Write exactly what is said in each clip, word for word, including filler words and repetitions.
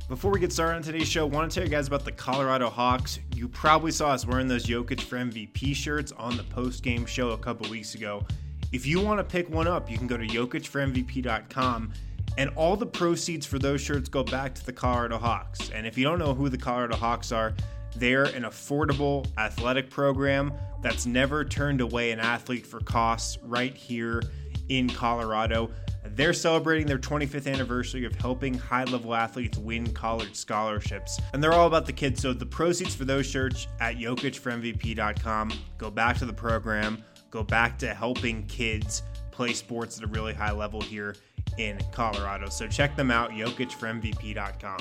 Before we get started on today's show, I want to tell you guys about the Colorado Hawks. You probably saw us wearing those Jokic for M V P shirts on the post-game show a couple weeks ago. If you want to pick one up, you can go to Jokic for M V P dot com, and all the proceeds for those shirts go back to the Colorado Hawks. And if you don't know who the Colorado Hawks are, they're an affordable athletic program that's never turned away an athlete for costs right here in Colorado. They're celebrating their twenty-fifth anniversary of helping high-level athletes win college scholarships. And they're all about the kids, so the proceeds for those shirts at Jokic for M V P dot com go back to the program, go back to helping kids play sports at a really high level here in Colorado. So check them out, Jokic for M V P dot com.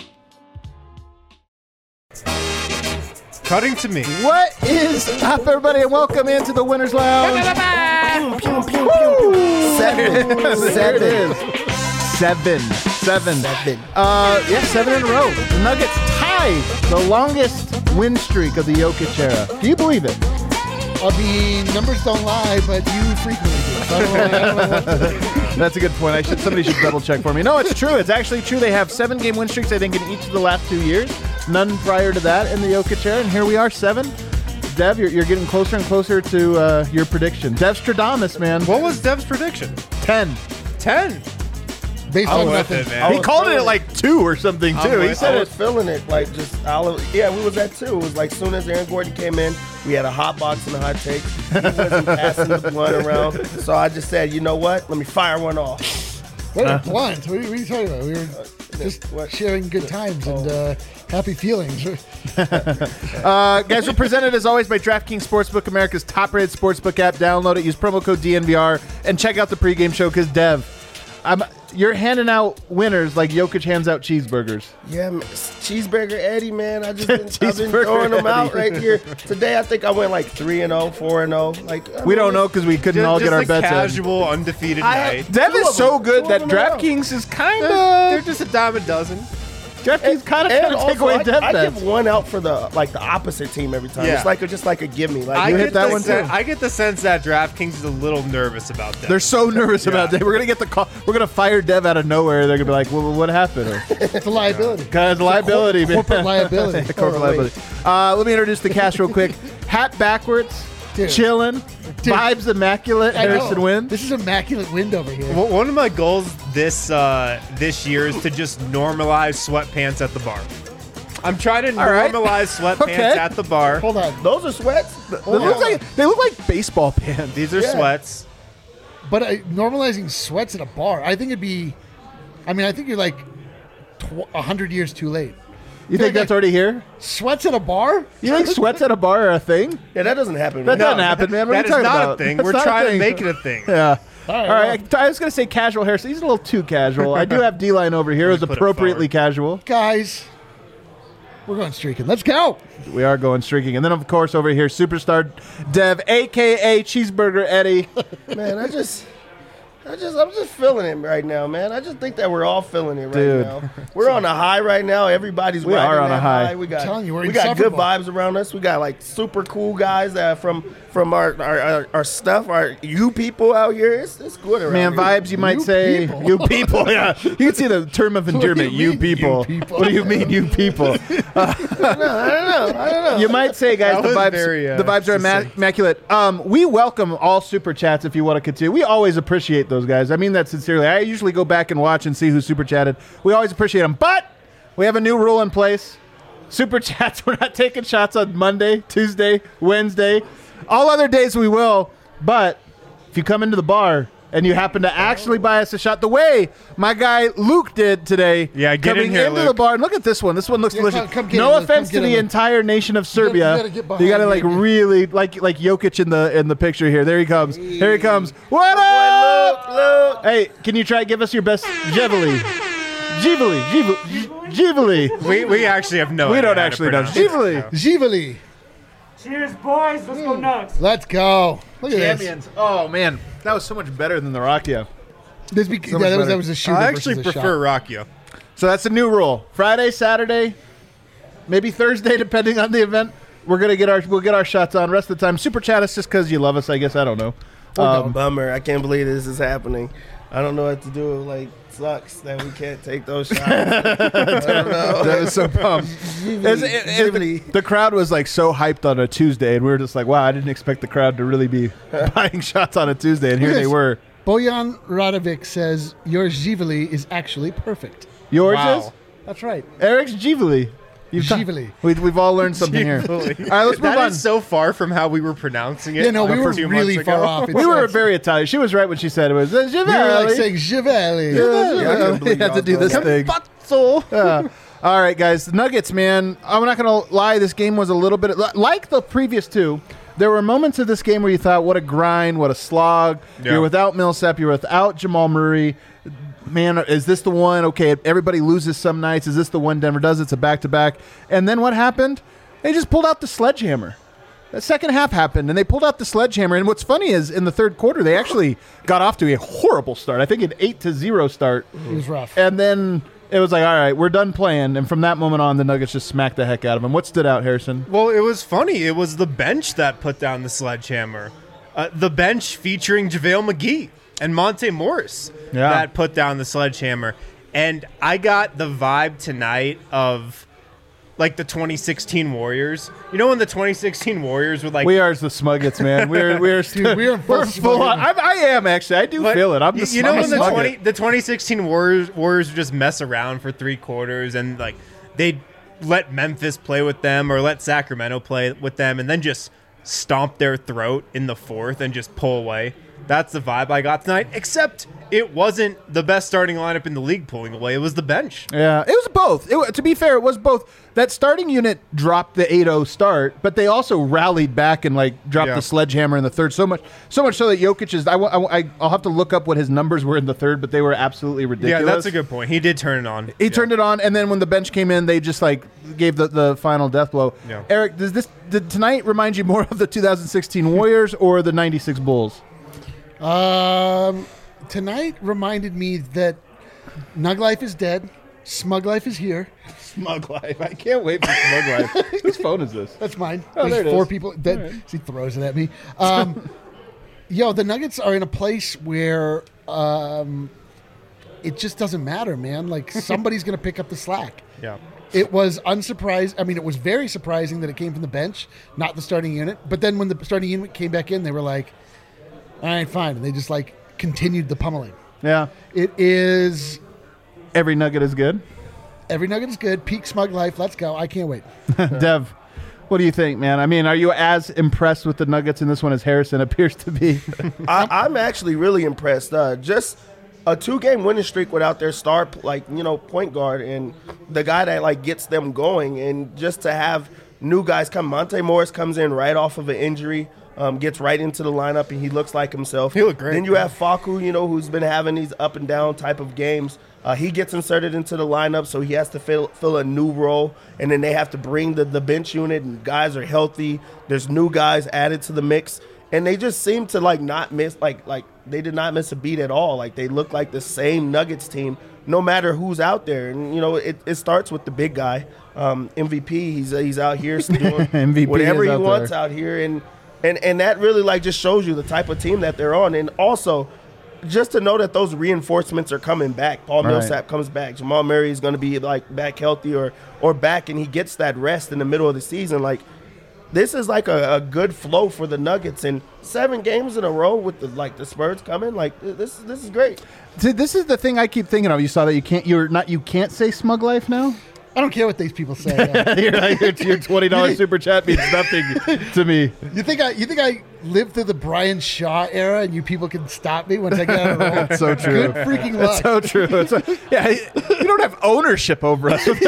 Cutting to me. What is up, everybody, and welcome into the Winners Lounge. Pew, pew, pew, pew, pew. Seven. Seven. There it is. Seven. Seven. Seven. Uh, yeah, seven in a row. The Nuggets tied the longest win streak of the Jokic era. Do you believe it? I mean, numbers don't lie, but you frequently do. I don't know, I don't know what to do. That's a good point. I should somebody should double check for me. No, it's true. It's actually true. They have seven game win streaks, I think, in each of the last two years. None prior to that in the Jokic era, and here we are, seven. Dev, you're, you're getting closer and closer to uh, your prediction. Dev Stradamus, man. What was Dev's prediction? Ten. Ten. Based I'm on with nothing. it, man. He called it at like two or something, I'm too. He with said I it. was feeling it, like just all of, yeah, we was at two. It was like soon as Aaron Gordon came in, we had a hot box and a hot take. He wasn't passing the blunt around, so I just said, you know what? Let me fire one off. What a blunt. What are, you, what are you talking about? We were just what? sharing good times and uh, happy feelings. Uh, guys, we're presented as always by DraftKings Sportsbook, America's top-rated sportsbook app. Download it, use promo code D N V R, and check out the pregame show because, Dev, I'm, you're handing out winners like Jokic hands out cheeseburgers. Yeah, man. Cheeseburger Eddie, man. I just been, I've been Cheeseburger throwing them out Eddie. right here. Today, I think I went like three and zero, four and zero. Like I We mean, don't know because we couldn't Just, all just get our a bets in. casual, undefeated I night. have- Dev Two is of so them. good Two that of them are out. DraftKings is kind They're of just a dime a dozen. DraftKings kind of And trying to take also, away I, Dev I bets. give one out for the like the opposite team every time. Yeah. It's like a, just like a gimme. Like I You get hit that the one, sen- too. I get the sense that DraftKings is a little nervous about that. They're so nervous about Yeah. that. We're gonna get the call. We're gonna fire Dev out of nowhere. They're gonna be like, "Well, what happened?" Or, It's a liability. Guys, liability, man. Corporate liability. Corporate Oh, wait. liability. Uh, let me introduce the cast real quick. Hat backwards, Dude. chilling, Dude. vibes immaculate. I know. Harrison Wind. This is immaculate wind over here. W- One of my goals this uh, this year is to just normalize sweatpants at the bar. I'm trying to All right. normalize sweatpants Okay. at the bar. Hold on. those are sweats. They look like they look like baseball pants. These are Yeah. sweats. But uh, normalizing sweats at a bar, I think it'd be, I mean, I think you're like tw- one hundred years too late. You think that's already here? Sweats at a bar? You think sweats at a bar are a thing? Yeah, that doesn't happen. That man. doesn't happen, man. What That are is you talking not about? a thing. That's We're not a trying to thing. make it a thing. Yeah. All right, All right. I, I was going to say casual Harrison. He's a little too casual. I do have D-line over here. It was put it appropriately forward. casual. Guys, we're going streaking. Let's go. We are going streaking. And then, of course, over here, superstar Dev, a k a. Cheeseburger Eddie. Man, I just, I just, I'm just feeling it right now, man. I just think that we're all feeling it right Dude. now. We're on a high right now. Everybody's We riding are on that a high. We got, I'm telling you, we're we got good insufferable. vibes around us. We got like super cool guys that from from our our, our, our stuff, our you people out here. It's, it's good around Man, here. vibes, you might You say. people. You people, yeah. You can see the term of do you endearment, you, mean, people. you people? What do you mean, you people? I don't know. I don't know. I don't know. You might say, guys, That the was vibes, very, uh, the vibes are imma- succinct. immaculate. Um, we welcome all super chats if you want to continue. We always appreciate those guys. I mean that sincerely. I usually go back and watch and see who super chatted. We always appreciate them. But we have a new rule in place. Super chats, we're not taking shots on Monday, Tuesday, Wednesday. All other days we will. But if you come into the bar and you happen to actually buy us a shot, the way my guy Luke did today, Yeah, get in coming here, into Luke. the bar, and look at this one. This one looks Yeah, delicious. come- come get no it, Luke. offense Come to get it, the Luke. entire nation of gotta- Serbia. you gotta get behind You gotta me, like baby. really like like Jokic in the in the picture here. There he comes. Here he comes. What Boy, up? look, look. Hey, can you try to give us your best Givali? Givali, Givali, Givali. We we actually have no We idea don't how to actually know. pronounce it. Givali. Givali. Cheers, boys. Let's go nuts. Let's go. Look at this. Champions. Oh man, that was so much better than the Rakia. This be, So yeah, much that, was, better. that was a shooter I actually versus a prefer shot. Rakia. So that's a new rule. Friday, Saturday, maybe Thursday, depending on the event. We're gonna get our we'll get our shots on. Rest of the time, super chat us just because you love us. I guess I don't know. Um, Um, Bummer. I can't believe this is happening. I don't know what to do. Like, sucks that we can't take those shots. I don't know. That was so pumped. It's- it- it- the, the crowd was like so hyped on a Tuesday, and we were just like, wow, I didn't expect the crowd to really be buying shots on a Tuesday, and here they Yes. were. Bojan Radovic says your Givali is actually perfect. Yours Wow. is? That's right. Eric's Givali. You've ta- Givali. we, we've all learned something here. All right, let's move That on. is so far from how we were pronouncing it. Yeah, no, we uh, were two really months far ago. off. It's, we were it's- very Italian. She was right when she said it was uh, we were like Givali. saying Givali. Yeah, I couldn't believe we had to y'all do this done thing. Yeah. All right, guys. The Nuggets, man. I'm not going to lie. This game was a little bit like the previous two. There were moments of this game where you thought, what a grind, what a slog. Yeah. You're without Millsap. You're without Jamal Murray. Man, is this the one? Okay, everybody loses some nights. Is this the one Denver does? It's a back-to-back. And then what happened? They just pulled out the sledgehammer. The second half happened, and they pulled out the sledgehammer. And what's funny is in the third quarter, they actually got off to a horrible start. I think an eight to zero start. It was rough. And then it was like, all right, we're done playing. And from that moment on, the Nuggets just smacked the heck out of them. What stood out, Harrison? Well, it was funny. It was the bench that put down the sledgehammer. Uh, the bench featuring JaVale McGee and Monte Morris Yeah. that put down the sledgehammer. And I got the vibe tonight of like the twenty sixteen Warriors. You know when the twenty sixteen Warriors would like We are the Smuggets, man. We're we're Dude, we're in full we're full on. Smuggets. I, I am actually. I do But feel it. I'm y- the you know I'm a when the Smugget. twenty the twenty sixteen Warriors Warriors would just mess around for three quarters and like they'd let Memphis play with them or let Sacramento play with them and then just stomp their throat in the fourth and just pull away. That's the vibe I got tonight. Except it wasn't the best starting lineup in the league pulling away. It was the bench. Yeah, it was both. It, wa- to be fair, it was both. That starting unit dropped the eight oh start, but they also rallied back and like dropped Yeah. the sledgehammer in the third. So much, so much so that Jokic is. I, wa- I, I'll have to look up what his numbers were in the third, but they were absolutely ridiculous. Yeah, that's a good point. He did turn it on. He turned it on, and then when the bench came in, they just like gave the, the final death blow. Yeah. Eric, does this did tonight remind you more of the two thousand sixteen Warriors or the ninety-six Bulls? Um, tonight reminded me that Nug Life is dead. Smug Life is here. Smug Life. I can't wait for Smug Life. Whose phone is this? That's mine. Oh, There's there it four is. people. That, He throws it at me. Um, yo, the Nuggets are in a place where um, it just doesn't matter, man. Like somebody's going to pick up the slack. Yeah. It was unsurprised. I mean, it was very surprising that it came from the bench, not the starting unit. But then when the starting unit came back in, they were like, all right, fine. And they just like continued the pummeling. Yeah. It is Every Nugget is good. every Nugget is good. Peak Smug Life. Let's go. I can't wait. Dev, what do you think, man? I mean, are you as impressed with the Nuggets in this one as Harrison appears to be? I, I'm actually really impressed. Uh, just a two-game winning streak without their star, like you know, point guard and the guy that like gets them going, and just to have new guys come. Monte Morris comes in right off of an injury, um, gets right into the lineup, and he looks like himself. He looked great. Then you have Facu, you know, who's been having these up and down type of games. Uh, he gets inserted into the lineup, so he has to fill fill a new role, and then they have to bring the, the bench unit, and guys are healthy. There's new guys added to the mix, and they just seem to like not miss like like they did not miss a beat at all. Like they look like the same Nuggets team, no matter who's out there. And you know, it, it starts with the big guy, um, M V P. He's he's out here doing M V P whatever is he out wants there. out here, and and and that really like just shows you the type of team that they're on, and also. Just to know that those reinforcements are coming back. Paul Right. Millsap comes back. Jamal Murray is going to be like back healthy or or back, and he gets that rest in the middle of the season. Like this is like a, a good flow for the Nuggets, and seven games in a row with the like the Spurs coming. Like this this is great. See, this is the thing I keep thinking of. You saw that you can't. You're not. You can't say Smug Life now. I don't care what these people say. uh, You're like, your, your twenty dollars super chat means nothing to me. you think I? You think I lived through the Brian Shaw era, and you people can stop me once I get out of the roll? That's so true. Good freaking That's luck. so true. It's a- yeah, you don't have ownership over us. With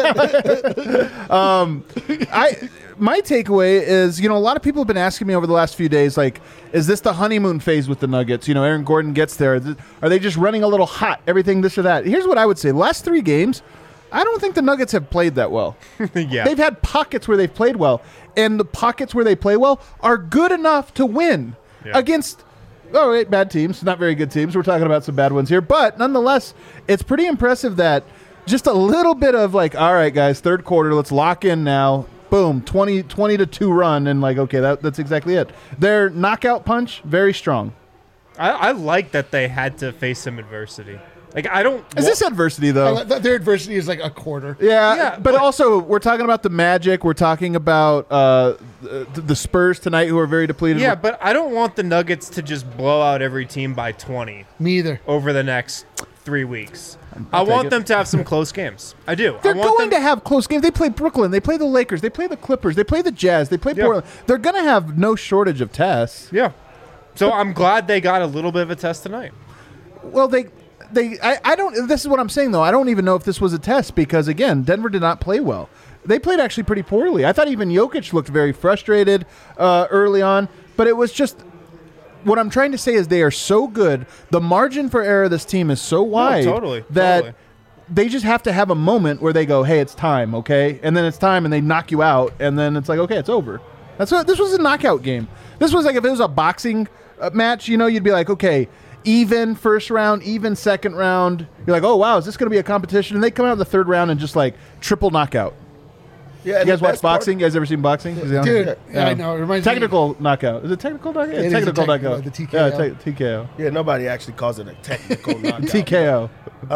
this. um, I my takeaway is, you know, a lot of people have been asking me over the last few days, like, is this the honeymoon phase with the Nuggets? You know, Aaron Gordon gets there. Are they just running a little hot? Everything this or that? Here's what I would say: the last three games, I don't think the Nuggets have played that well. Yeah. They've had pockets where they've played well, and the pockets where they play well are good enough to win Yeah. against, oh, wait, bad teams, not very good teams. We're talking about some bad ones here. But nonetheless, it's pretty impressive that just a little bit of like, all right, guys, third quarter, let's lock in now. Boom, twenty, twenty to two run, and like, okay, that, that's exactly it. Their knockout punch, very strong. I, I like that they had to face some adversity. Like I don't. Is this adversity though? Uh, th- Their adversity is like a quarter. Yeah, Yeah, but, but- also we're talking about the Magic. We're talking about uh, the, the Spurs tonight, who are very depleted. Yeah, but I don't want the Nuggets to just blow out every team by twenty Me either. over the next three weeks. I take want it. them to have some close games. I do. They're I want going them, to have close games. They play Brooklyn. They play the Lakers. They play the Clippers. They play the Jazz. They play Yeah. Portland. They're going to have no shortage of tests. Yeah. So I'm glad they got a little bit of a test tonight. Well, they, they, I, I don't. This is what I'm saying though. I don't even know if this was a test because again, Denver did not play well. They played actually pretty poorly. I thought even Jokic looked very frustrated uh, early on, but it was just. What I'm trying to say is they are so good. The margin for error of this team is so wide totally, that totally. they just have to have a moment where they go, "Hey, it's time," okay, and then it's time, and they knock you out, and then it's like, "Okay, it's over." That's what this was a knockout game. This was like if it was a boxing uh, match, you know, you'd be like, "Okay, even first round, even second round." You're like, "Oh wow, is this going to be a competition?" And they come out in the third round and just like triple knockout. Yeah, You and guys the watch best part- boxing? You guys ever seen boxing? Is it on? Dude, yeah, I know. It reminds me- Technical knockout. Is it technical knockout? It is a technical technical, knockout. the T K O. Yeah, te- T K O. Yeah, nobody actually calls it a technical knockout. T K O.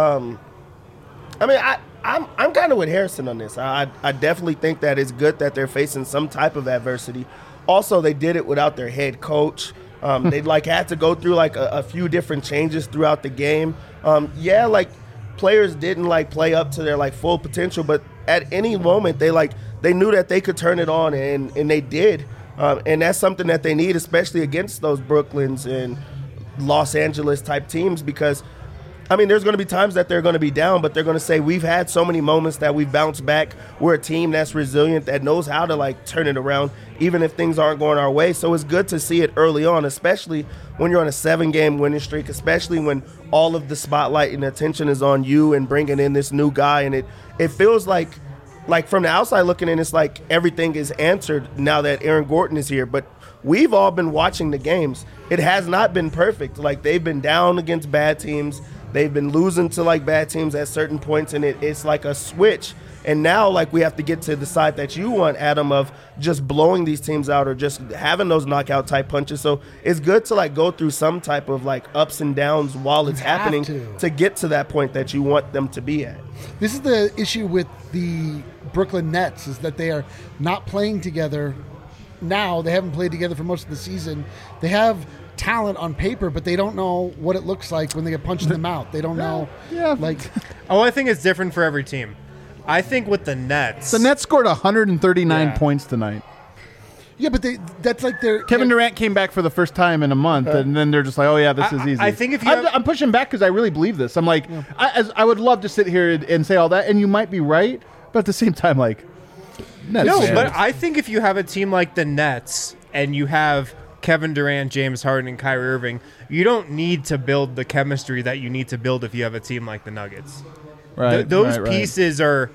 I mean, I, I'm I'm kind of with Harrison on this. I I definitely think that it's good that they're facing some type of adversity. Also, they did it without their head coach. Um, they like had to go through like a, a few different changes throughout the game. Um, yeah, like players didn't like play up to their like full potential, but at any moment they like they knew that they could turn it on, and and they did. Um, and that's something that they need, especially against those Brooklyns and Los Angeles type teams, because I mean, there's going to be times that they're going to be down, but they're going to say, we've had so many moments that we've bounced back. We're a team that's resilient, that knows how to, like, turn it around, even if things aren't going our way. So it's good to see it early on, especially when you're on a seven-game winning streak, especially when all of the spotlight and attention is on you and bringing in this new guy. And it, it feels like, like, from the outside looking in, it's like everything is answered now that Aaron Gordon is here. But we've all been watching the games. It has not been perfect. Like, they've been down against bad teams. They've been losing to, like, bad teams at certain points, and it, it's like a switch. And now, like, we have to get to the side that you want, Adam, of just blowing these teams out or just having those knockout-type punches. So it's good to, like, go through some type of, like, ups and downs while it's You have happening to. to get to that point that you want them to be at. This is the issue with the Brooklyn Nets, is that they are not playing together now. They haven't played together for most of the season. They have talent on paper, but they don't know what it looks like when they get punched in the mouth. They don't know. Yeah. Like, Oh, I think it's different for every team. I think with the Nets, The Nets scored one hundred thirty-nine Yeah. points tonight. yeah, but they, that's like their Kevin their- Durant came back for the first time in a month, and then they're just like, "Oh yeah, this I- is easy." I think if you I'm, have- I'm pushing back because I really believe this. I'm like, I, as, I would love to sit here and, and say all that, and you might be right, but at the same time, like, Nets no, fans. but I think if you have a team like the Nets and you have Kevin Durant, James Harden, and Kyrie Irving, you don't need to build the chemistry that you need to build if you have a team like the Nuggets. right, Th- those right, right. pieces are.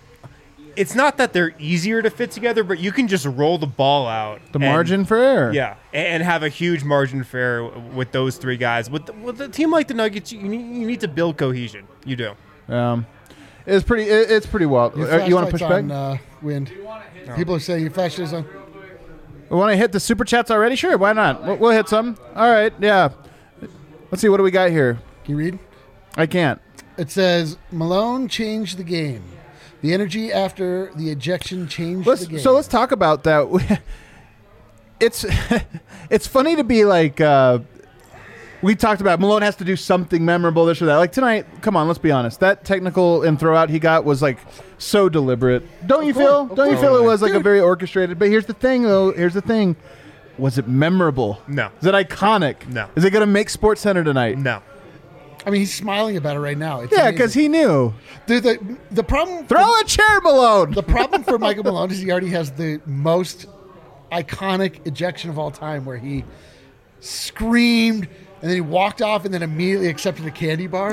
It's not that they're easier to fit together, but you can just roll the ball out. the and- margin for error. Yeah, and and have a huge margin for error with those three guys. With, the, with a team like the Nuggets, you need, you need to build cohesion. You do. Um, it's pretty. It, it's pretty wild. your Uh, you want to push flashlight's back? on, uh, Wind. People are saying your flash is on. We want to hit the super chats already? Sure, why not? We'll, we'll hit some. All right, yeah. Let's see. What do we got here? Can you read? I can't. It says Malone changed the game. The energy after the ejection changed Let's, the game. so let's talk about that. It's it's funny to be like uh, we talked about Malone has to do something memorable, this or that. Like tonight, come on, let's be honest. That technical and throw out he got was like so deliberate. Don't you course, feel? of Don't you course. feel it was like a Dude. very orchestrated? But here's the thing, though. Here's the thing. Was it memorable? No. Is it iconic? No. Is it going to make Sports Center tonight? No. I mean, he's smiling about it right now. It's Yeah, amazing. because he knew. the, the the problem. Throw a chair, Malone. The problem for Michael Malone is he already has the most iconic ejection of all time, where he screamed and then he walked off and then immediately accepted a candy bar.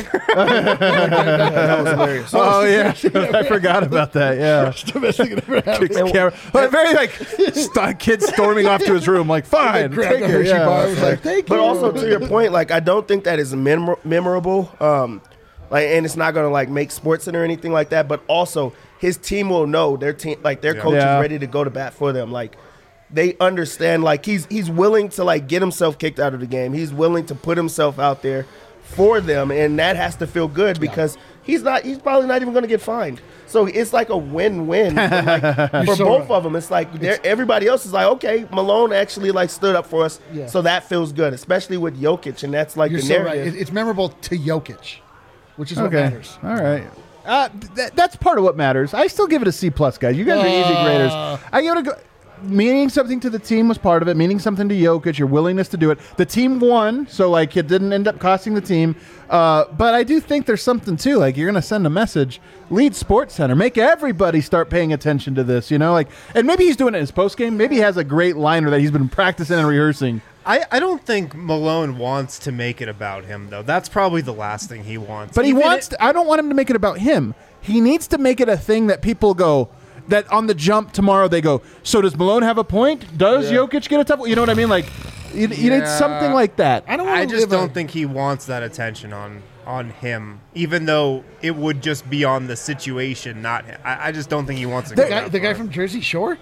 That was hilarious. Oh yeah, I forgot about that. Yeah. Kicks the camera. But very like st- kid storming off to his room, like fine, Grabbed take a it. Hershey Yeah. bar. I was like, thank But you. also to your point, like I don't think that is memor- memorable. Um, like, and it's not gonna like make SportsCenter or anything like that. But also, his team will know their team, like their coach Yeah. is ready to go to bat for them. Like they understand, like, he's he's willing to, like, get himself kicked out of the game. He's willing to put himself out there for them, and that has to feel good because he's not he's probably not even going to get fined. So it's like a win-win for, like, for so both right. of them. It's like they're- everybody else is like, okay, Malone actually, like, stood up for us, Yeah. so that feels good, especially with Jokic, and that's like You're the so right. narrative. It- It's memorable to Jokic, which is what Okay. matters. All right. Uh, th- that's part of what matters. I still give it a C plus, guys. You guys are easy Uh. graders. I give it a go. Meaning something to the team was part of it. Meaning something to Jokic, your willingness to do it. The team won, so like it didn't end up costing the team. Uh, but I do think there's something too. Like you're gonna send a message. Lead Sports Center. Make everybody start paying attention to this. You know, like, and maybe he's doing it in his post game. Maybe he has a great liner that he's been practicing and rehearsing. I, I don't think Malone wants to make it about him, though. That's probably the last thing he wants. But he Even wants. it- To, I don't want him to make it about him. He needs to make it a thing that people go. That on the jump tomorrow they go. So does Malone have a point? Does Yeah. Jokic get a tough? You know what I mean? Like, you, you need Yeah. something like that. I don't. Wanna I just live don't a, think he wants that attention on on him, even though it would just be on the situation, not him. I, I just don't think he wants to the go guy, that the guy far. from Jersey Shore.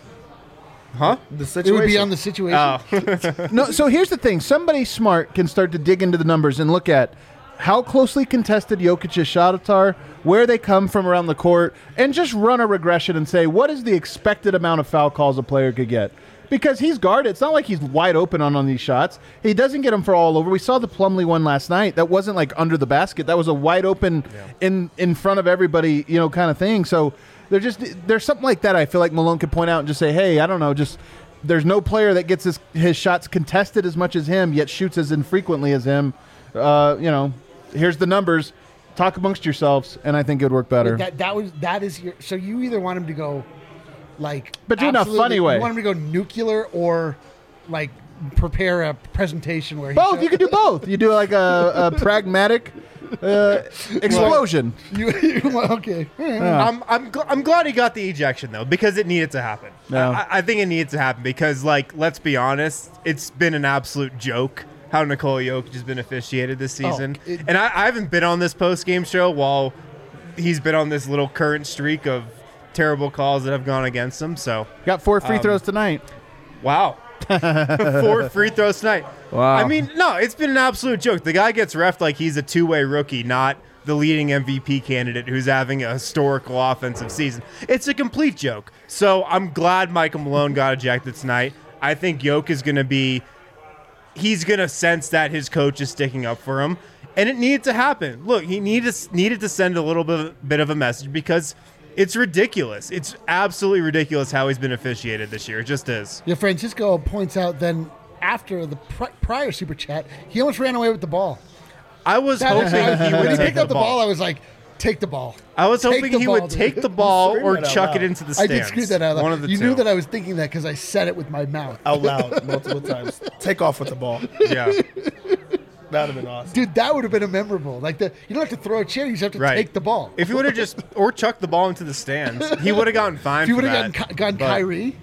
Huh? the It situation. would be on the situation. Oh, No. So here's the thing. Somebody smart can start to dig into the numbers and look at how closely contested Jokic's shots are, where they come from around the court, and just run a regression and say what is the expected amount of foul calls a player could get. Because he's guarded. It's not like he's wide open on, on these shots. He doesn't get them for all over. We saw the Plumlee one last night. That wasn't like under the basket. That was a wide open in in front of everybody, you know, kind of thing. So there's just there's something like that I feel like Malone could point out and just say, hey, I don't know, just there's no player that gets his, his shots contested as much as him, yet shoots as infrequently as him. Uh, you know, here's the numbers. Talk amongst yourselves, and I think it would work better. That that was that is your. So you either want him to go, like, But do it in a absolutely- funny way. You want him to go nuclear or, like, prepare a presentation where he Both. show- You could do both. You do like a, a pragmatic uh, explosion. You, you okay? I'm I'm gl- I'm glad he got the ejection though, because it needed to happen. Yeah. I, I think it needed to happen because, like, let's be honest, it's been an absolute joke how Nikola Jokic has been officiated this season, it- and I, I haven't been on this post game show while he's been on this little current streak of terrible calls that have gone against him. So Got four free Um, throws tonight. wow. Four free throws tonight. Wow. I mean, no, it's been an absolute joke. The guy gets reffed like he's a two-way rookie, not the leading M V P candidate who's having a historical offensive season. It's a complete joke. So I'm glad Michael Malone got ejected tonight. I think Jokic is going to be – he's going to sense that his coach is sticking up for him, and it needed to happen. Look, he needed, needed to send a little bit, bit of a message because – it's ridiculous. It's absolutely ridiculous how he's been officiated this year. It just is. Yeah, Francisco points out then after the pri- prior super chat, he almost ran away with the ball. I was That is- hoping he when would he take picked up the the ball, ball. I was like, take the ball. I was Take hoping the he ball, would dude. take the ball Scream or that out chuck it loud. into the I stands. did scream that out loud. One of the you two. knew that I was thinking that because I said it with my mouth. out loud multiple times. Take off with the ball. Yeah. That would have been awesome. Dude, that would have been a memorable. Like the, you don't have to throw a chair; you just have to Right. take the ball. If he would have just or chucked the ball into the stands, he would have gotten fined. If you for would have that. gotten, gotten But, Kyrie,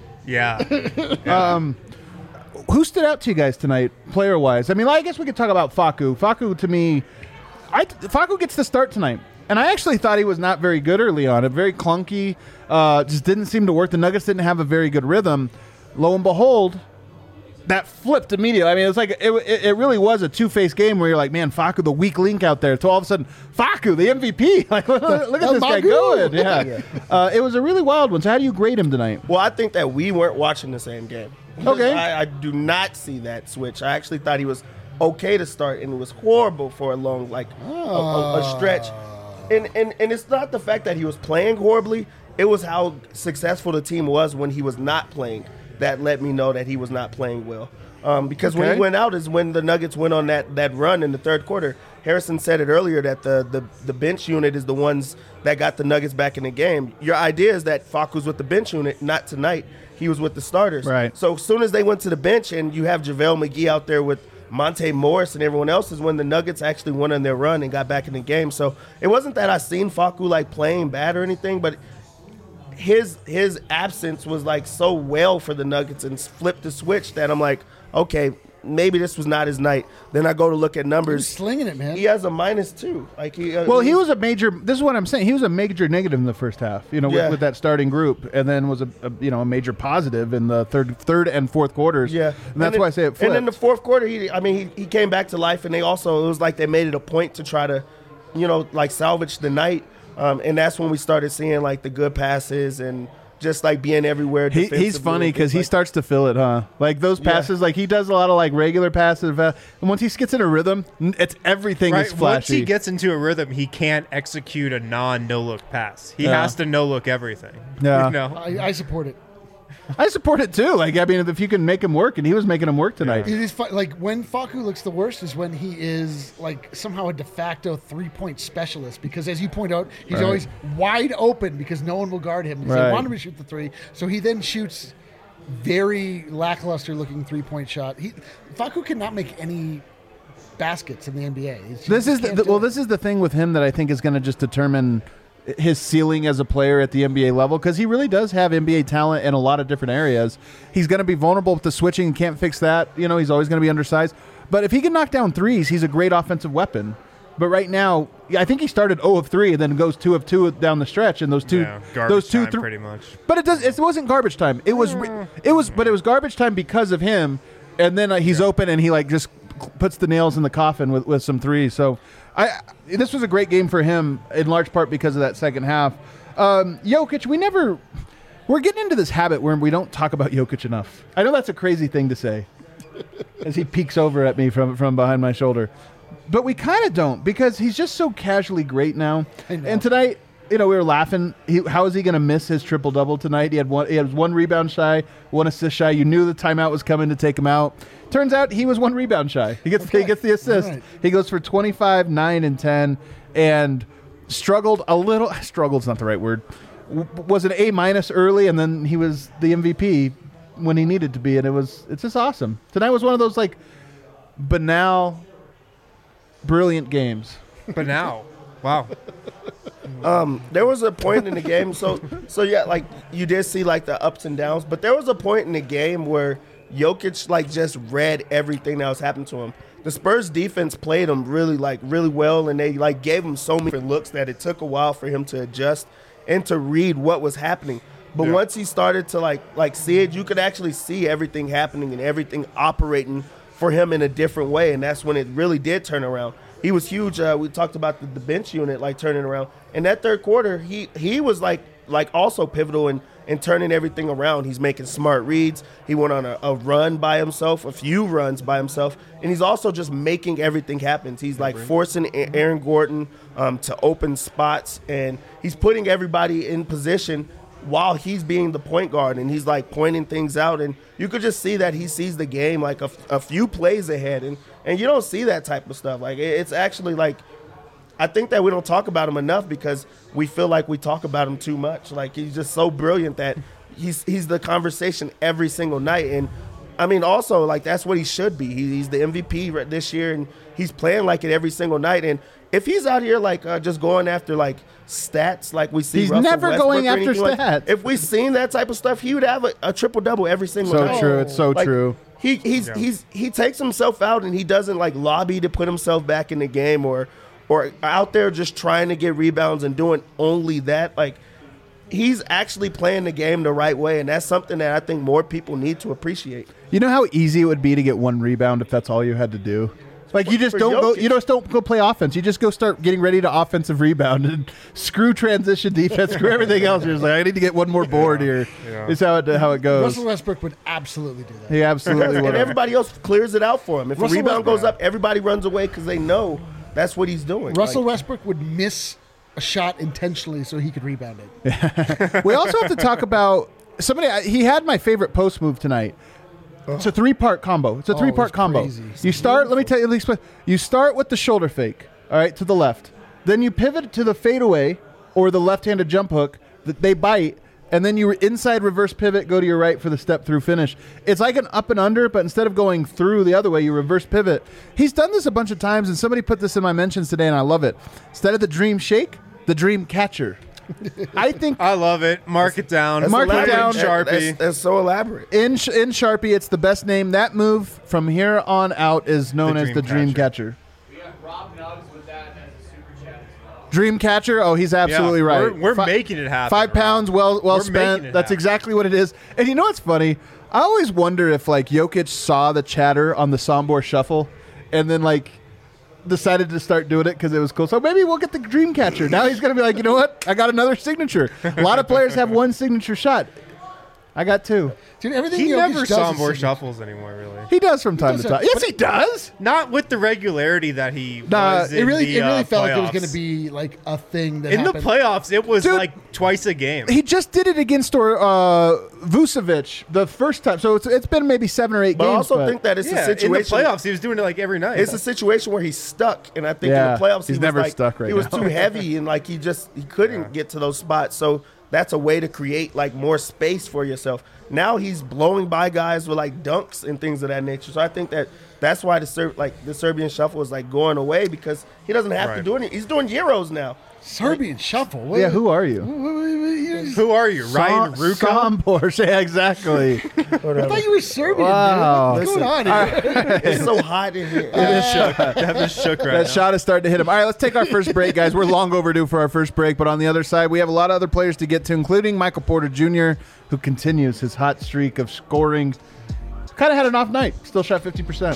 Yeah. Who stood out to you guys tonight, player wise? I mean, I guess we could talk about Facu. Facu, to me, I Facu gets the start tonight, and I actually thought he was not very good early on. It very clunky, uh, just didn't seem to work. The Nuggets didn't have a very good rhythm. Lo and behold, that flipped immediately. I mean, it was like it, it, it really was a two-faced game where you're like, man, Facu, the weak link out there. So all of a sudden, Facu, the M V P. Like, look, look at the this guy Magoo. going. Yeah, uh, it was a really wild one. So how do you grade him tonight? Well, I think that we weren't watching the same game. Okay. I, I do not see that switch. I actually thought he was okay to start, and it was horrible for a long, like, a, a, a stretch. And, and and it's not the fact that he was playing horribly. It was how successful the team was when he was not playing that let me know that he was not playing well. Um, because when Okay. he went out is when the Nuggets went on that, that run in the third quarter. Harrison said it earlier that the, the, the bench unit is the ones that got the Nuggets back in the game. Your idea is that Facu's with the bench unit, not tonight. He was with the starters. Right. So as soon as they went to the bench and you have JaVale McGee out there with Monte Morris and everyone else is when the Nuggets actually went on their run and got back in the game. So it wasn't that I seen Facu like playing bad or anything, but his his absence was like so well for the Nuggets and flipped the switch that I'm like, okay, maybe this was not his night. Then I go to look at He's numbers. slinging it, man. He has a minus two. Like he, uh, Well, he was a major. This is what I'm saying. He was a major negative in the first half, you know, Yeah. with, with that starting group, and then was a, a you know a major positive in the third, third and fourth quarters. Yeah, and that's then- why I say it flipped. And in the fourth quarter, he, I mean, he, he came back to life, and they also it was like they made it a point to try to, you know, like salvage the night, um, and that's when we started seeing like the good passes and just like being everywhere. He, he's defensively. funny because It's he like- starts to feel it, huh? Like those Yeah. passes, like he does a lot of like regular passes, uh, and once he gets in a rhythm, n- it's everything Right. is Once flashy. he gets into a rhythm, he can't execute a non no look pass. He Yeah. has to no look everything. Yeah. You know? I, I support it. I support it too. Like I mean, if you can make him work, and he was making him work tonight. It is fu- like when Facu looks the worst is when he is like somehow a de facto three point specialist because as you point out, he's Right. always wide open because no one will guard him. Because Right. They want him to shoot the three, so he then shoots very lackluster looking three point shot. He Facu cannot make any baskets in the N B A. He's- This he is the, can't the, do well, it. this is the thing with him that I think is going to just determine his ceiling as a player at the N B A level because he really does have N B A talent in a lot of different areas. He's going to be vulnerable with the switching and can't fix that. You know, he's always going to be undersized. But if he can knock down threes, he's a great offensive weapon. But right now, yeah, I think he started zero of three and then goes two of two down the stretch, and those two, Yeah, garbage those two, time thr- pretty much. But it does. It wasn't garbage time. It was. re- It was. But it was garbage time because of him. And then uh, he's open and he like just puts the nails in the coffin with, with some threes. So I. This was a great game for him in large part because of that second half. Um, Jokic, we never. We're getting into this habit where we don't talk about Jokic enough. I know that's a crazy thing to say, as he peeks over at me from from behind my shoulder. But we kind of don't because he's just so casually great now. I know. And tonight, you know, we were laughing. He, how is he going to miss his triple double tonight? He had one. He had one rebound shy, one assist shy. You knew the timeout was coming to take him out. Turns out he was one rebound shy. He gets Okay. he gets the assist. All right. He goes for twenty-five, nine, and ten, and struggled a little. Struggled's not the right word. W- was an A minus early, and then he was the M V P when he needed to be, and it was it's just awesome. Tonight was one of those like banal, brilliant games. But now, wow. Um, there was a point in the game, so so yeah, like you did see like the ups and downs, but there was a point in the game where Jokic like just read everything that was happening to him. The Spurs defense played him really like really well, and they like gave him so many different looks that it took a while for him to adjust and to read what was happening. But Yeah. once he started to like like see it, you could actually see everything happening and everything operating for him in a different way, and that's when it really did turn around. He was huge. Uh, we talked about the, the bench unit like turning around. In that third quarter, he he was like like also pivotal in, in turning everything around. He's making smart reads. He went on a, a run by himself, a few runs by himself, and he's also just making everything happen. He's like forcing A- Aaron Gordon um, to open spots, and he's putting everybody in position while he's being the point guard, and he's like pointing things out, and you could just see that he sees the game like a, a few plays ahead, and and you don't see that type of stuff. Like it- it's actually like I think that we don't talk about him enough because we feel like we talk about him too much. Like he's just so brilliant that he's he's the conversation every single night, and I mean also like that's what he should be. He, he's the M V P right this year, and he's playing like it every single night. And if he's out here like uh, just going after like stats, like we see, He's Russell never Westbrook going or after anything like- stats. if we seen that type of stuff, he would have a, a triple double every single So night. true. It's so Like, true. He he's Yeah. he's he takes himself out and he doesn't like lobby to put himself back in the game or or out there just trying to get rebounds and doing only that. Like he's actually playing the game the right way, and that's something that I think more people need to appreciate. You know how easy it would be to get one rebound if that's all you had to do? Like you just For don't go Jokic. you just don't go play offense. You just go start getting ready to offensive rebound and screw transition defense, screw everything else. You're just like, I need to get one more board here. Yeah. Is how it how it goes. Russell Westbrook would absolutely do that. He absolutely And would. everybody else clears it out for him. If Russell a rebound Westbrook- goes up, everybody runs away because they know that's what he's doing. Russell Like, Westbrook would miss a shot intentionally so he could rebound it. We also have to talk about somebody. I- He had my favorite post move tonight. It's a three part combo. It's a Oh, three part it's combo. crazy. You start. Let me tell you. Let me explain. You start with the shoulder fake. All right, to the left. Then you pivot to the fadeaway or the left-handed jump hook. That they bite, and then you inside reverse pivot, go to your right for the step through finish. It's like an up and under, but instead of going through the other way, you reverse pivot. He's done this a bunch of times, and somebody put this in my mentions today, and I love it. Instead of the dream shake, the dream catcher. I think I love it. Mark it down. Mark it elaborate. down. That- Sharpie. That's, that's so elaborate. in Sh- in Sharpie, it's the best name. That move from here on out is known The as the Dream Dreamcatcher. We got Rob Nugs with that as a super chat as well. Dreamcatcher. Oh, he's absolutely Yeah, right. We're, we're Fi- making it happen. Five Rob. pounds, well well We're spent. making it That's happen. exactly what it is. And you know what's funny? I always wonder if like Jokic saw the chatter on the Sombor Shuffle, and then like decided to start doing it because it was cool. So maybe we'll get the Dreamcatcher. Now he's gonna be like, you know what? I got another signature. A lot of players have one signature shot. I got two. Dude, everything He Jokic never does saw is more signature. shuffles anymore, really. He does from time does to have- time. Yes, he does. Not with the regularity that he Nah, was It in really, the, it really uh, felt like it was playoffs. going to be like a thing that in the happened. playoffs. It was Dude. like twice a game. He just did it against or uh, Vucevic the first time. So it's it's been maybe seven or eight But I games. also but think that it's yeah, a situation. in the playoffs, he was doing it like every night. It's a situation where he's stuck, and I think Yeah, in the playoffs he's he never was like, stuck right He was now. too heavy, and like he just he couldn't get to those spots. So that's a way to create like more space for yourself. Now he's blowing by guys with like dunks and things of that nature. So I think that that's why the Ser- like the Serbian shuffle is like going away because he doesn't have to Right. do anything. He's doing Euros now. Serbian shuffle. What- yeah, who are you? what- what- what- you- Who are you, Ryan Sa- Rucco? Sombor. Yeah, exactly. I thought you were Serbian. Wow. Dude. What's going Listen, on here? It's so hot in here. That was shook right That now. shot is starting to hit him. All right, let's take our first break, guys. We're long overdue for our first break, but on the other side, we have a lot of other players to get to, including Michael Porter Junior, who continues his hot streak of scoring. Kind of had an off night. Still shot fifty percent.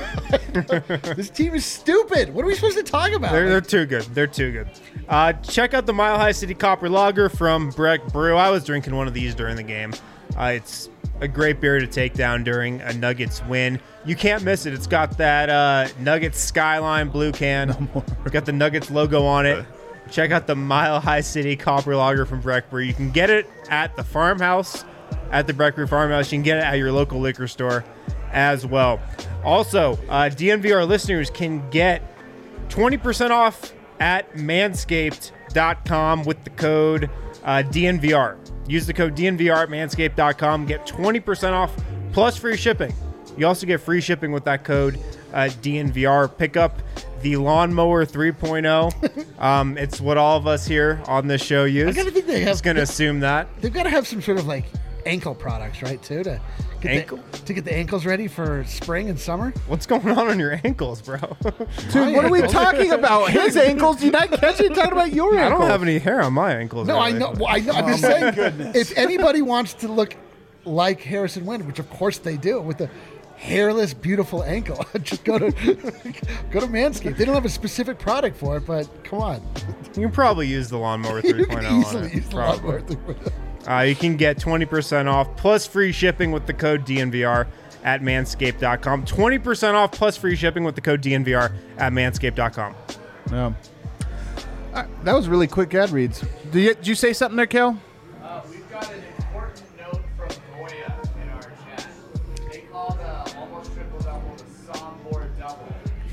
This team is stupid. What are we supposed to talk about? They're, they're too good. They're too good. Uh, check out the Mile High City Copper Lager from Breck Brew. I was drinking one of these during the game. Uh, it's a great beer to take down during a Nuggets win. You can't miss it. It's got that uh, Nuggets Skyline blue can. It's got the Nuggets logo on it. Check out the Mile High City Copper Lager from Breck Brew. You can get it at the farmhouse, at the Breck Brew Farmhouse. You can get it at your local liquor store as well. Also, uh, D N V R listeners can get twenty percent off at manscaped dot com with the code uh, D N V R. Use the code D N V R at manscaped dot com. Get twenty percent off plus free shipping. You also get free shipping with that code uh, D N V R. Pick up the Lawnmower three point oh. Um, it's what all of us here on this show use. I gotta think they have- Just going to assume that. They've got to have some sort of like ankle products, right? Too to get Ankle? the, to get the ankles ready for spring and summer. What's going on on your ankles, bro? Dude, what are we talking about? His ankles? Did you not catch it? Talking about your I ankles. don't have any hair on my ankles. No, I really. know. Well, I know. I'm just saying. If anybody wants to look like Harrison Wind, which of course they do, with the hairless, beautiful ankle, just go to go to Manscaped. They don't have a specific product for it, but come on, You can probably use the Lawnmower you three can point oh on easily it. use the Probably. lawnmower three point oh. Uh, you can get twenty percent off plus free shipping with the code D N V R at manscaped dot com. twenty percent off plus free shipping with the code D N V R at manscaped dot com. Yeah. Uh, that was really quick ad reads. Did you, did you say something there, Kel? Uh, we've got an important note from Goya in our chat. They called uh, almost triple double the Sombor double.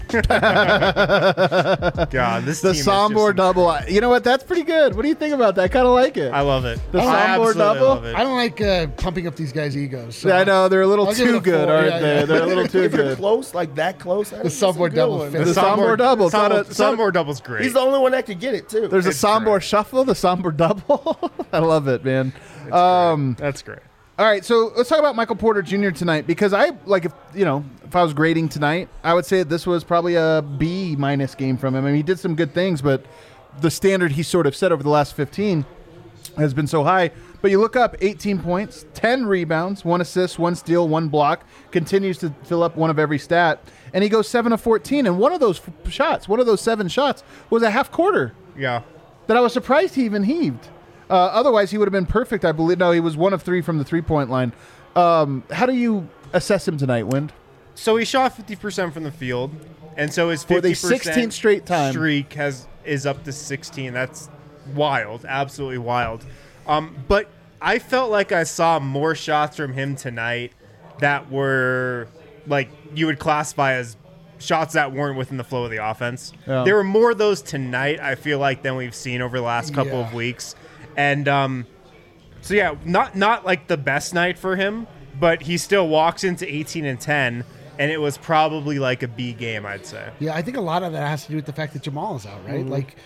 God, this The team is Sombor just- double. You know what? That's pretty good. What do you think about that? I kind of like it. I love it. The I Sombor absolutely double? love it. I don't like uh, pumping up these guys' egos. So Yeah, I know. They're a little I'll give it too a good, four, aren't yeah, they? yeah. They're a little too If you're good. close, like that close, the Sombor double fit. The Sombor double. It's not Sombor, a- it's not a- Sombor double's great. He's the only one that could get it too. There's a It's Sombor great. shuffle, the Sombor double. I love it, man. Um, That's great. all right, so let's talk about Michael Porter Junior tonight because I like if you know if I was grading tonight, I would say this was probably a B minus game from him. I mean, he did some good things, but the standard he sort of set over the last fifteen has been so high. But you look up eighteen points, ten rebounds, one assist, one steal, one block, continues to fill up one of every stat, and he goes seven of fourteen. And one of those f- shots, one of those seven shots, was a half quarter Yeah. that I was surprised he even heaved. Uh, otherwise, he would have been perfect, I believe. No, he was one of three from the three-point line. Um, how do you assess him tonight, Wind? So he shot fifty percent from the field, and so his For the fifty percent sixteenth straight time. streak has is up to sixteen. That's wild, absolutely wild. Um, but I felt like I saw more shots from him tonight that were like you would classify as shots that weren't within the flow of the offense. Yeah. There were more of those tonight, I feel like, than we've seen over the last couple Yeah. of weeks. And um, so yeah, not not like the best night for him, but he still walks into eighteen and ten, and it was probably like a B game, I'd say. Yeah, I think a lot of that has to do with the fact that Jamal is out, right? Like,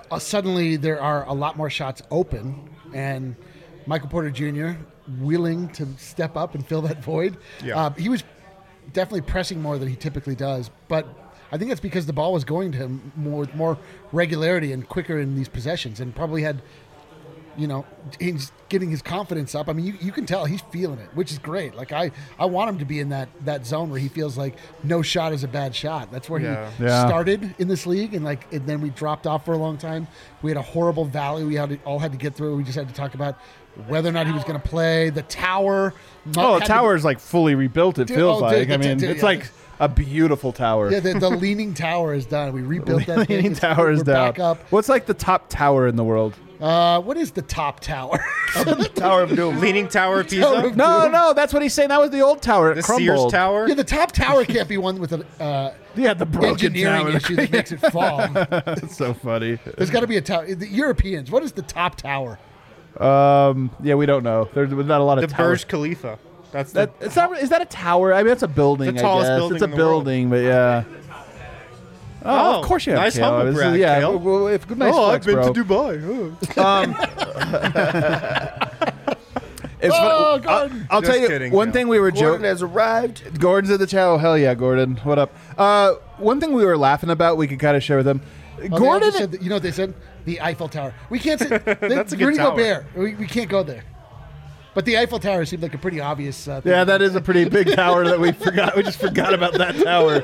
uh, suddenly there are a lot more shots open, and Michael Porter Junior willing to step up and fill that void. Yeah. Uh, he was definitely pressing more than he typically does, but I think that's because the ball was going to him more with more regularity and quicker in these possessions, and probably had, you know, he's getting his confidence up. I mean, you, you can tell he's feeling it, which is great. Like I, I want him to be in that, that zone where he feels like no shot is a bad shot. That's where Yeah. he Yeah. started in this league, and like and then we dropped off for a long time. We had a horrible valley we had to, all had to get through. We just had to talk about whether or not he was going to play. The tower. Oh, had the to- tower's like fully rebuilt. It Dude, feels oh, like. dude, I the- mean, dude, it's yeah. like a beautiful tower. Yeah, the, the leaning tower is done. We rebuilt that thing. Leaning It's- tower is we're down. back up. What's like the top tower in the world? Uh, what is the top tower? Tower of Doom. Leaning Tower of Tower Pisa, of- No, no, that's what he's saying. That was the old tower. It the crumbled. Sears Tower. Yeah, the top tower can't be one with an uh, Yeah, the broken engineering tower. issue that makes it fall. That's so funny. There's got to be a tower. The Europeans, what is the top tower? Um, yeah, we don't know. There's not a lot of The towers. Burj Khalifa. That's That, the it's not. Is that a tower? I mean, it's a building. The I tallest guess building it's a in the world. building, but yeah. Oh, Oh, of course you have nice Kale. humble This is- brag, yeah, Kale. well, well, if, nice flex, bro. Dubai. It's Oh, funny. I'll, Gordon. I'll Just tell you kidding, one Kale. thing we were Gordon joking. has arrived. Gordon's in the chat. Oh, hell yeah, Gordon. What up? Uh, one thing we were laughing about, we could kind of share with him. Oh, they Gordon. also said that- you know what they said? The Eiffel Tower. We can't say That's a good Rudy tower. Gobert. We, we can't go there. But the Eiffel Tower seemed like a pretty obvious uh, thing. Yeah, that is a pretty big tower that we forgot. We just forgot about that tower.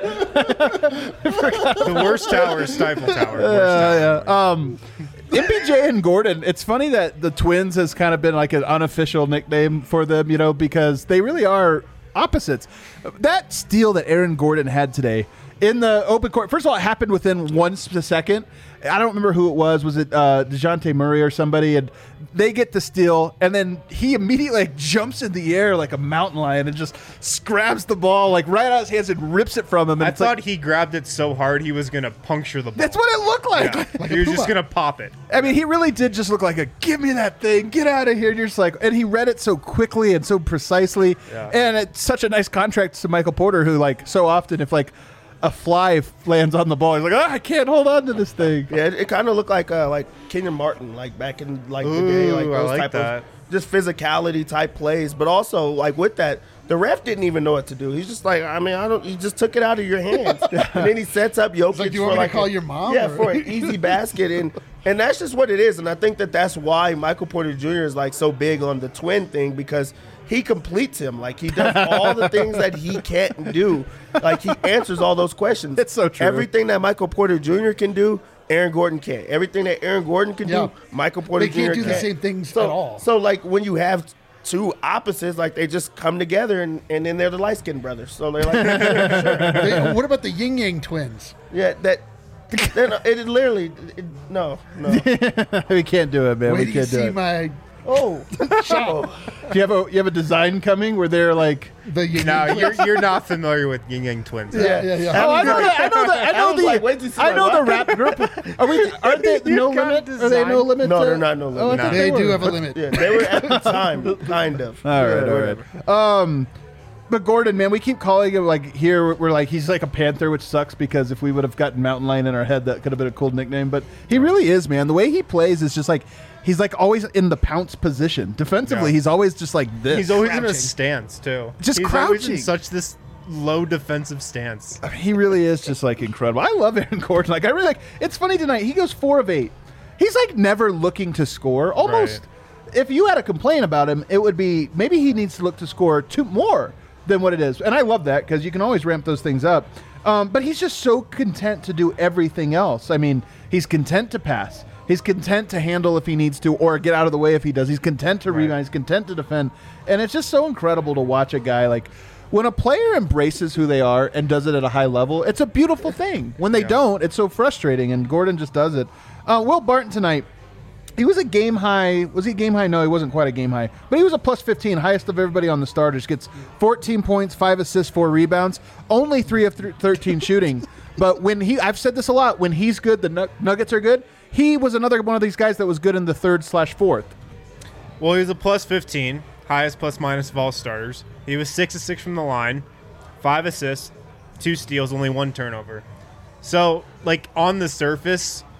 The worst tower is Stifle Tower. Worst Yeah, tower. yeah. Um, M P J and Gordon. It's funny that the Twins has kind of been like an unofficial nickname for them, you know, because they really are opposites. That steal that Aaron Gordon had today in the open court. First of all, it happened within one s- second. I don't remember who it was. Was it uh, DeJounte Murray or somebody? And they get the steal, and then he immediately like, jumps in the air like a mountain lion and just grabs the ball like right out of his hands and rips it from him. And I it's like, thought he grabbed it so hard he was gonna puncture the ball. that's what it looked like. Yeah. he was just gonna pop it. I mean, he really did just look like a give me that thing, get out of here. And you're just like, and he read it so quickly and so precisely. Yeah. And it's such a nice contract to Michael Porter, who, like, so often, if like a fly f- lands on the ball, he's like, oh, I can't hold on to this thing. Yeah, it, it kind of looked like uh, like Kenyon Martin, like back in like the day, like Ooh, I those like type that. of just physicality type plays. But also like with that, the ref didn't even know what to do. He's just like, I mean, I don't. He just took it out of your hands, and then he sets up Jokic like, do you for want me to like call a- your mom, Yeah, or- for an easy basket, and and that's just what it is. And I think that that's why Michael Porter Junior is like so big on the twin thing, because he completes him. Like he does all the things that he can't do. Like he answers all those questions. It's so true. Everything that Michael Porter Junior can do, Aaron Gordon can't. Everything that Aaron Gordon can Yeah. do, Michael Porter They can't Junior do the same things so, at all. So like when you have two opposites, like they just come together and, and then they're the light skinned brothers. So they're like, sure. They- what about the Yin Yang twins? Yeah, that. they're not- It literally, it, no, no. We can't do it, man. Wait we till you can't do see it. my Oh, shot. Do you have a you have a design coming where they're like? The Yin No, Yang you're twins. you're not familiar with Yin Yang Twins. Yeah, yeah, yeah. Oh, I know the I know the I know was the like, wait till you see I my know the what? rap group. Are we? Aren't they You no got limit? Are they design. no limit? No, to- they're not no Oh, I limit. thought They were. do have a limit. yeah, they were at the time, kind of. All right, Yeah, all whatever. right. Um, but Gordon, man, we keep calling him like here. We're like he's like a panther, which sucks because if we would have gotten Mountain Lion in our head, that could have been a cool nickname. But he really is, man. The way he plays is just like he's like always in the pounce position. Defensively, Yeah. he's always just like this. He's always in a Crouching. stance too. Just He's always crouching. in such this low defensive stance. I mean, he really is just like incredible. I love Aaron Gordon. Like I really like. It's funny tonight. He goes four of eight. He's like never looking to score. Almost. If you had a complaint about him, it would be maybe he needs to look to score two more than what it is. And I love that because you can always ramp those things up. Um, but he's just so content to do everything else. I mean, he's content to pass. He's content to handle if he needs to or get out of the way if he does. He's content to rebound. He's content to defend. And it's just so incredible to watch a guy like when a player embraces who they are and does it at a high level, it's a beautiful thing. When they Yeah. don't, it's so frustrating. And Gordon just does it. Uh, Will Barton tonight, he was a game high. Was he game high? No, he wasn't quite a game high. But he was a plus fifteen, highest of everybody on the starters. Gets fourteen points, five assists, four rebounds, only three of th- thirteen shooting. But when he, I've said this a lot, when he's good, the Nug- Nuggets are good. He was another one of these guys that was good in the third slash fourth. Well, he was a plus fifteen, highest plus minus of all starters. He was six of six from the line, five assists, two steals, only one turnover. So, like on the surface,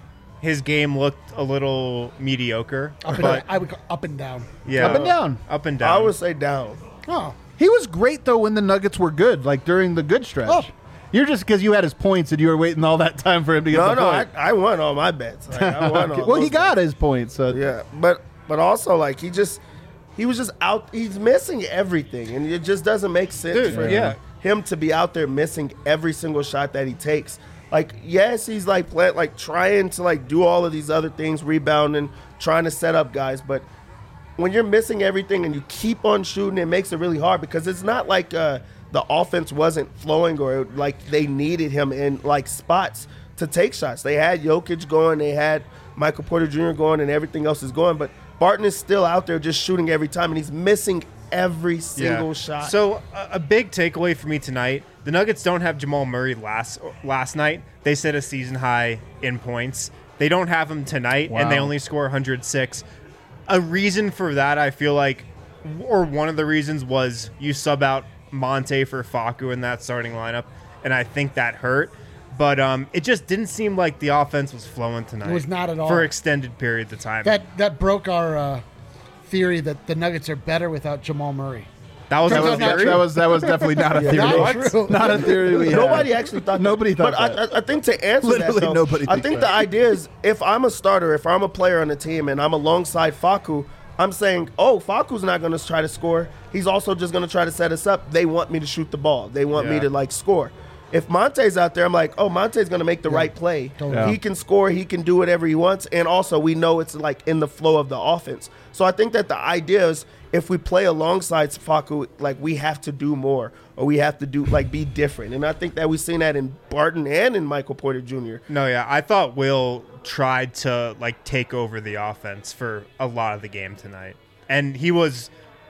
his game looked a little mediocre. Up and, but I would go up and down. yeah, Up and down. up and down. I would say down. Oh, He was great though when the Nuggets were good, like during the good stretch. Oh. You're just because you had his points and you were waiting all that time for him to get No, the no, I, point. I won all my bets. Like, I won all well, he those got bets. his points. So Yeah, but but also like he just he was just out. He's missing everything, and it just doesn't make sense Dude, for yeah. him to be out there missing every single shot that he takes. Like, yes, he's like play, like trying to like do all of these other things, rebounding, trying to set up guys, but when you're missing everything and you keep on shooting, it makes it really hard because it's not like uh, the offense wasn't flowing or like they needed him in like spots to take shots. They had Jokic going, they had Michael Porter Junior going, and everything else is going, but Barton is still out there just shooting every time, and he's missing every single shot. So a, a big takeaway for me tonight: the Nuggets don't have Jamal Murray last last night. They set a season high in points. They don't have him tonight, and they Wow. only score one hundred six. A reason for that, I feel like, or one of the reasons was you sub out Monte for Facu in that starting lineup, and I think that hurt. But um, it just didn't seem like the offense was flowing tonight. It was not at all. For extended periods of time. that that broke our uh, theory that the Nuggets are better without Jamal Murray. that was that a was, not that, theory? was that was definitely not a theory. Not true. Not a theory. We had. Nobody actually thought. Nobody thought But that. I, I think to answer Literally that, though, nobody I thinks think that. the idea is if I'm a starter, if I'm a player on the team, and I'm alongside Facu, I'm saying, oh, Facu's not going to try to score. He's also just going to try to set us up. They want me to shoot the ball. They want me Yeah. to like score. If Monte's out there, I'm like, oh, Monte's going to make the right play. Totally. Yeah. He can score. He can do whatever he wants. And also, we know it's like in the flow of the offense. So I think that the idea is if we play alongside Facu, like we have to do more or we have to do like be different. And I think that we've seen that in Barton and in Michael Porter Junior No, yeah, I thought Will tried to like take over the offense for a lot of the game tonight, and he was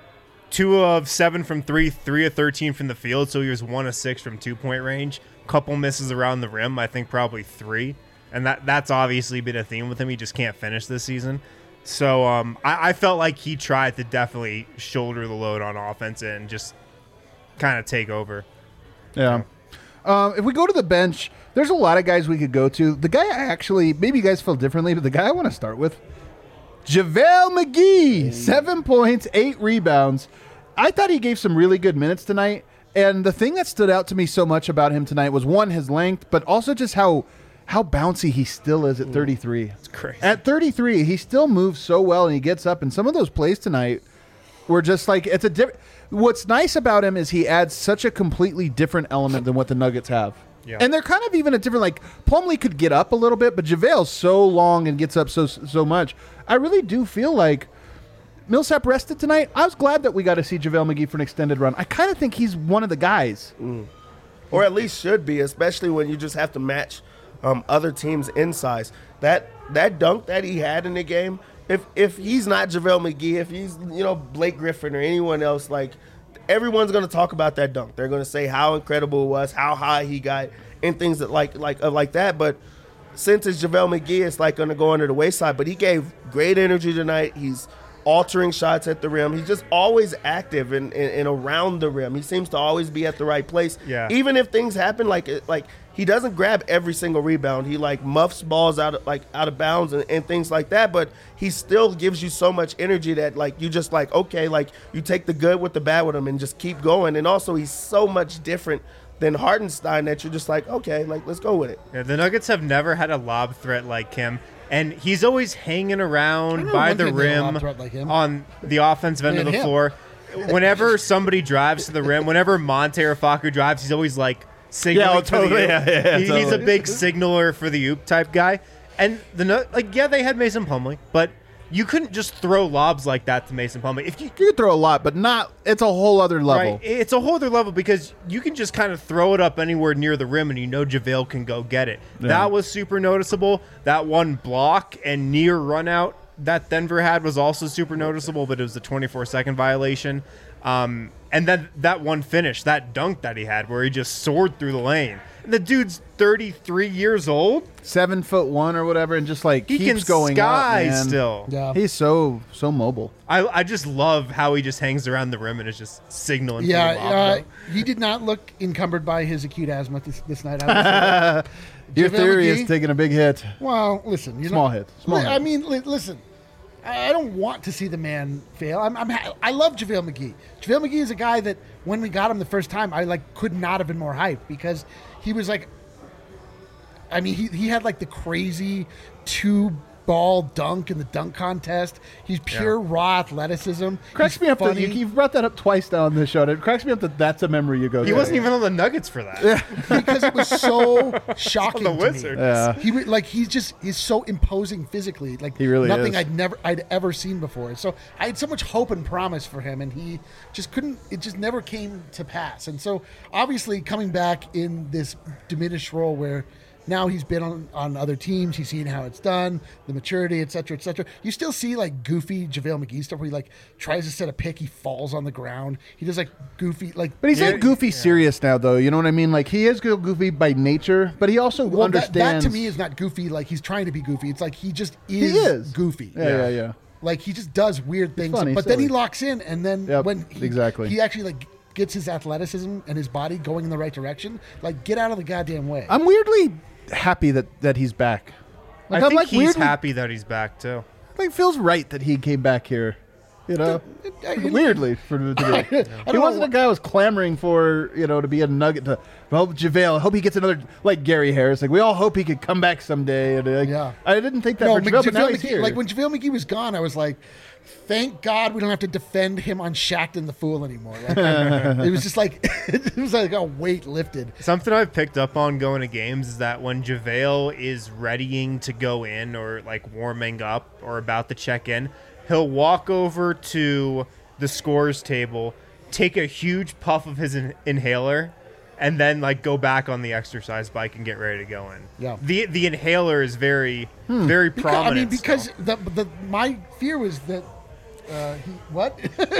two of seven from three, three of thirteen from the field, so he was one of six from two point range. Couple misses around the rim, I think probably three, and that that's obviously been a theme with him. He just can't finish this season. So um, I, I felt like he tried to definitely shoulder the load on offense and just kind of take over. Yeah. Um, if we go to the bench, there's a lot of guys we could go to. The guy I actually, maybe you guys feel differently, but the guy I want to start with, JaVale McGee, seven points, eight rebounds. I thought he gave some really good minutes tonight. And the thing that stood out to me so much about him tonight was, one, his length, but also just how how bouncy he still is at thirty-three. It's crazy. At thirty-three, he still moves so well, and he gets up. And some of those plays tonight were just like, it's a different. What's nice about him is he adds such a completely different element than what the Nuggets have. Yeah. And they're kind of even a different, like, Plumlee could get up a little bit, but JaVale's so long and gets up so so much. I really do feel like Millsap rested tonight. I was glad that we got to see JaVale McGee for an extended run. I kind of think he's one of the guys. or at least should be, especially when you just have to match um, other teams in size. That that dunk that he had in the game, if if he's not JaVale McGee, if he's you know Blake Griffin or anyone else, like everyone's going to talk about that dunk. They're going to say how incredible it was, how high he got, and things that like like uh, like that. But since it's JaVale McGee, it's like going to go under the wayside. But he gave great energy tonight. He's altering shots at the rim. He's just always active and, and, and around the rim. He seems to always be at the right place. Yeah. Even if things happen, like like he doesn't grab every single rebound. He like muffs balls out of like out of bounds and, and things like that. But he still gives you so much energy that like you just like okay, like you take the good with the bad with him and just keep going. And also he's so much different than Hardenstein that you're just like okay, like let's go with it. Yeah, the Nuggets have never had a lob threat like him, and he's always hanging around know by one the thing they had a rim lob threat like him. on the offensive end They of the had him. floor. Whenever somebody drives to the rim, whenever Monte or Facu drives, he's always like signaling Yeah, for totally, the oop. yeah, yeah, He- He's a totally. big signaler for the oop type guy. And the Nu- like, yeah, they had Mason Plumlee, but you couldn't just throw lobs like that to Mason Plumlee. If you You could throw a lot, but not. It's a whole other level. Right. It's a whole other level because you can just kind of throw it up anywhere near the rim and you know JaVale can go get it. That was super noticeable. That one block and near run out that Denver had was also super noticeable, but it was a twenty-four second violation. Um, and then that one finish, that dunk that he had where he just soared through the lane. And the dude's thirty-three years old. Seven foot one or whatever, and just like He keeps can going sky up, man. still. Yeah. He's so so mobile. I, I just love how he just hangs around the rim and is just signaling. Yeah, for the lob. uh, he did not look encumbered by his acute asthma this, this night. I would say. Your JaVale theory McGee? is taking a big hit. Well, listen, you Small know, hit, small li- I hit. mean, li- listen, I I don't want to see the man fail. I'm, I'm ha- I love JaVale McGee. JaVale McGee is a guy that when we got him the first time, I like could not have been more hyped because he was like, I mean, he he had like the crazy two ball dunk in the dunk contest. He's pure raw athleticism. Cracks He's me up that funny. you, you've brought that up twice now on this show. It cracks me up that that's a memory you go He to. wasn't even on the Nuggets for that. because it was so shocking the to Wizards. me. Yeah. He re- like he's just he's so imposing physically, like He really nothing is. I'd never I'd ever seen before. So I had so much hope and promise for him, and he just couldn't. It just never came to pass. And so obviously coming back in this diminished role where. Now he's been on, on other teams. He's seen how it's done, the maturity, et cetera, et cetera. You still see like goofy JaVale McGee stuff where he like tries to set a pick, he falls on the ground. He does like goofy like. But he's Yeah, like goofy serious now, though. You know what I mean? Like he is goofy by nature, but he also Well, that, understands. that to me is not goofy. Like he's trying to be goofy. It's like he just is, He is. goofy. Yeah, yeah, yeah. Like he just does weird things. funny, but then he silly. locks in, and then Yep, when he, exactly. he actually like gets his athleticism and his body going in the right direction. Like get out of the goddamn way. I'm weirdly happy that, that he's back. Like, I I'm think like he's weirdly, happy that he's back too. Like feels right that he came back here. You know, I- weirdly for to be. I He don't wasn't know a guy who was clamoring for you know to be a Nugget. To well, JaVale, I hope he gets another like Gary Harris. Like we all hope he could come back someday. And, like, Yeah. I didn't think that No, for JaVale, but now JaVale he's McGee, here. like when JaVale McGee was gone, I was like, thank God we don't have to defend him on Shaqtin' the Fool anymore. Like, it was just like it was like a weight lifted. Something I've picked up on going to games is that when JaVale is readying to go in or like warming up or about to check in, he'll walk over to the scores table, take a huge puff of his in- inhaler, and then like go back on the exercise bike and get ready to go in. Yeah. The the inhaler is very very Because, I prominent. mean, because still. the, the my fear was that uh, he what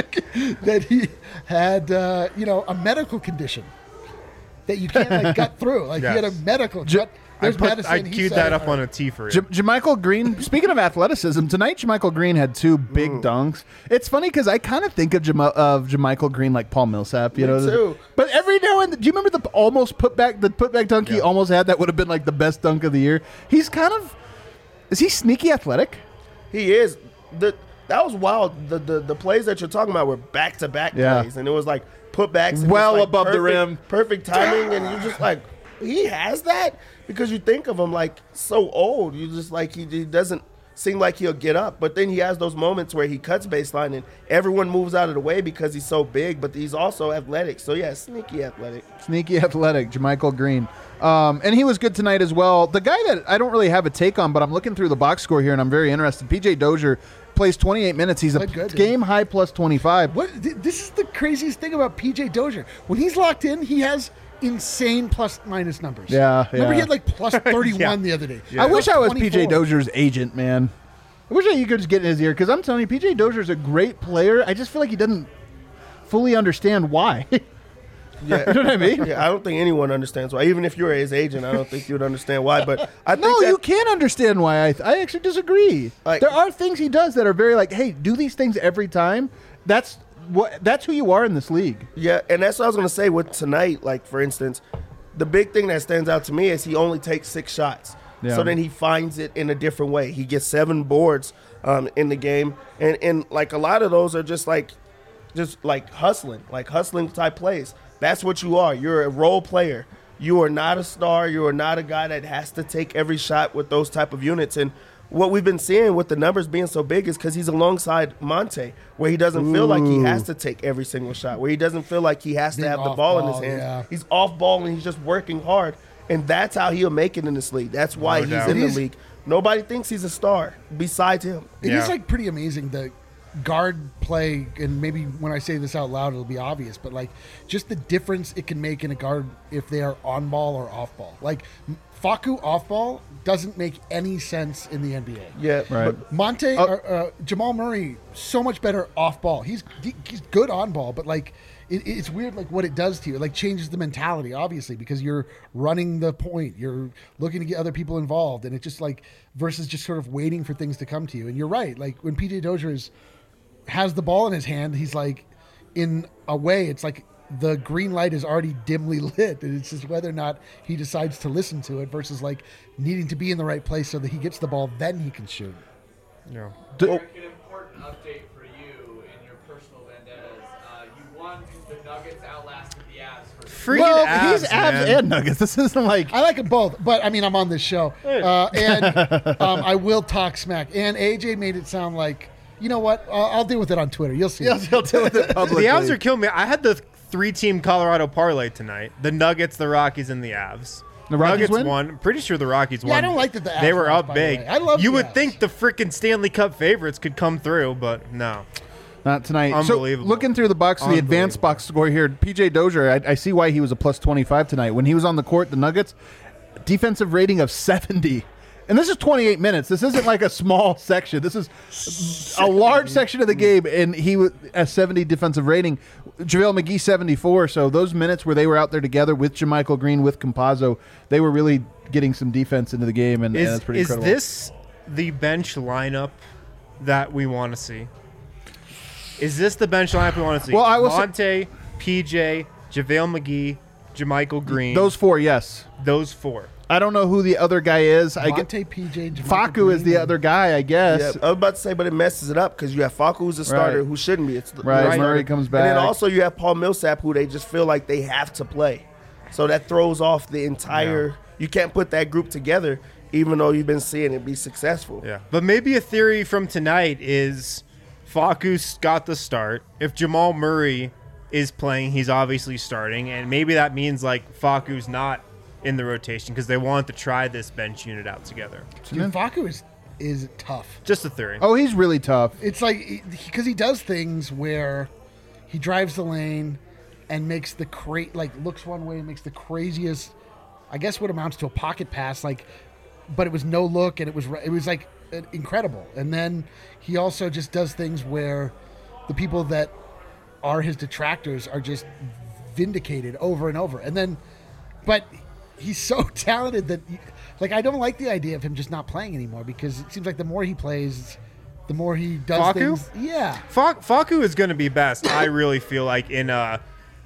that he had uh, you know a medical condition that you can't like gut through. Like he had a Yes. medical. J- gut, I, there's put, medicine. I he queued said that it. up on a T for you. J- Jamichael Green, speaking of athleticism, tonight Jamichael Green had two big dunks. It's funny because I kind of think of, Jam- of Jamichael Green like Paul Millsap, you Me know. too. But every now and then, do you remember the almost put back the put back dunk he Yeah. almost had that would have been like the best dunk of the year? He's kind of is he sneaky athletic? He is. The that was wild. The the, the plays that you're talking about were back to back Yeah. plays, and it was like putbacks, and Well just, like, above the perfect- rim. perfect timing, and you're just like, he has that because you think of him like so old. You just like he, he doesn't seem like he'll get up, but then he has those moments where he cuts baseline and everyone moves out of the way because he's so big, but he's also athletic. So yeah, sneaky athletic. Sneaky athletic, Jamichael Green. Um, and he was good tonight as well. The guy that I don't really have a take on, but I'm looking through the box score here and I'm very interested. P J Dozier plays twenty-eight minutes. He's a Played good, dude. game high plus twenty-five. What th- this is the craziest thing about P J Dozier. When he's locked in, he has insane plus minus numbers. Yeah, Remember he yeah. had like plus thirty-one the other day. I wish I was P J twenty-four. Dozier's agent, man. I wish I you could just get in his ear because I'm telling you, P J Dozier's a great player. I just feel like he doesn't fully understand why. Yeah, You know what I mean? yeah. I don't think anyone understands why. Even if you're his agent, I don't think you would understand why. But I think No, that, you can understand why. I, I actually disagree. Like- there are things he does that are very like, hey, do these things every time. That's what. That's who you are in this league. Yeah, and that's what I was gonna say with tonight. Like for instance, the big thing that stands out to me is he only takes six shots. Yeah. So then he finds it in a different way. He gets seven boards um, in the game, and and like a lot of those are just like, just like hustling, like hustling type plays. That's what you are. You're a role player. You are not a star. You are not a guy that has to take every shot with those type of units. And what we've been seeing with the numbers being so big is because he's alongside Monte, where he doesn't feel like he has to take every single shot, where he doesn't feel like he has to Being have the off ball in his ball, hands. yeah. He's off ball and he's just working hard. And that's how he'll make it in this league. That's why No he's doubt. in It the is- league. Nobody thinks he's a star besides him. It is Yeah. like pretty amazing the guard play, and maybe when I say this out loud, it'll be obvious, but like just the difference it can make in a guard if they are on ball or off ball. Like Facu off ball doesn't make any sense in the N B A. Yeah, Right. but Monte, Oh. or, uh, Jamal Murray, so much better off ball. He's he- he's good on ball, but like it, it's weird, like what it does to you. It like changes the mentality, obviously, because you're running the point, you're looking to get other people involved, and it just like versus just sort of waiting for things to come to you. And you're right, like when P J Dozier is has the ball in his hand, he's like, in a way, it's like the green light is already dimly lit, and it's just whether or not he decides to listen to it versus like needing to be in the right place so that he gets the ball, then he can shoot. Yeah. D- Eric, an important update for you in your personal vendettas. Uh, you won the Nuggets outlasted the Avs for Freaking well, Avs, he's Avs man. and Nuggets. This isn't like I like them both, but I mean, I'm on this show, uh, and um, I will talk smack. And A J made it sound like, you know what? Uh, I'll deal with it on Twitter. You'll see. he'll, he'll deal with it publicly. The Avs are killing me. I had the three-team Colorado parlay tonight. The Nuggets, the Rockies, and the Avs. The Rockies Nuggets win? won. I'm pretty sure the Rockies Yeah, won. I don't like that the Avs They were lost, up by the big. way. I love You the would Avs. think the freaking Stanley Cup favorites could come through, but no. Not tonight. Unbelievable. So looking through the box, the advanced Unbelievable. box score here, P J Dozier, I, I see why he was a plus twenty-five tonight. When he was on the court, the Nuggets, defensive rating of seventy. And this is twenty-eight minutes. This isn't like a small section. This is a large section of the game, and he was a seventy defensive rating. JaVale McGee, seventy-four. So those minutes where they were out there together with JaMychal Green, with Campazzo, they were really getting some defense into the game, and, and Is, that's pretty is incredible. this the bench lineup that we want to see? Is this the bench lineup we want to see? Well, I will say- Monte, P J, JaVale McGee, JaMychal Green. Those four, yes. those four. I don't know who the other guy is. I get Monte, P J, JaMychal Facu is Green, the and- other guy, I guess. Yeah, I was about to say, but it messes it up because you have Facu, who's a starter, Right. who shouldn't be. It's the, Right, the Murray starter. comes And then back. also you have Paul Millsap, who they just feel like they have to play. So that throws off the entire. You can't put that group together, even though you've been seeing it be successful. Yeah. But maybe a theory from tonight is Facu's got the start. If Jamal Murray is playing, he's obviously starting. And maybe that means like Facu's not in the rotation because they want to try this bench unit out together. Dude, Facu is is tough. Just a theory. Oh, he's really tough. It's like because he does things where he drives the lane and makes the cra- like looks one way and makes the craziest, I guess what amounts to a pocket pass, like, but it was no look and it was it was like incredible. And then he also just does things where the people that are his detractors are just vindicated over and over. And then, but he's so talented that, like, I don't like the idea of him just not playing anymore because it seems like the more he plays, the more he does Facu? things. Yeah. Fa- Facu is going to be best, I really feel like, in a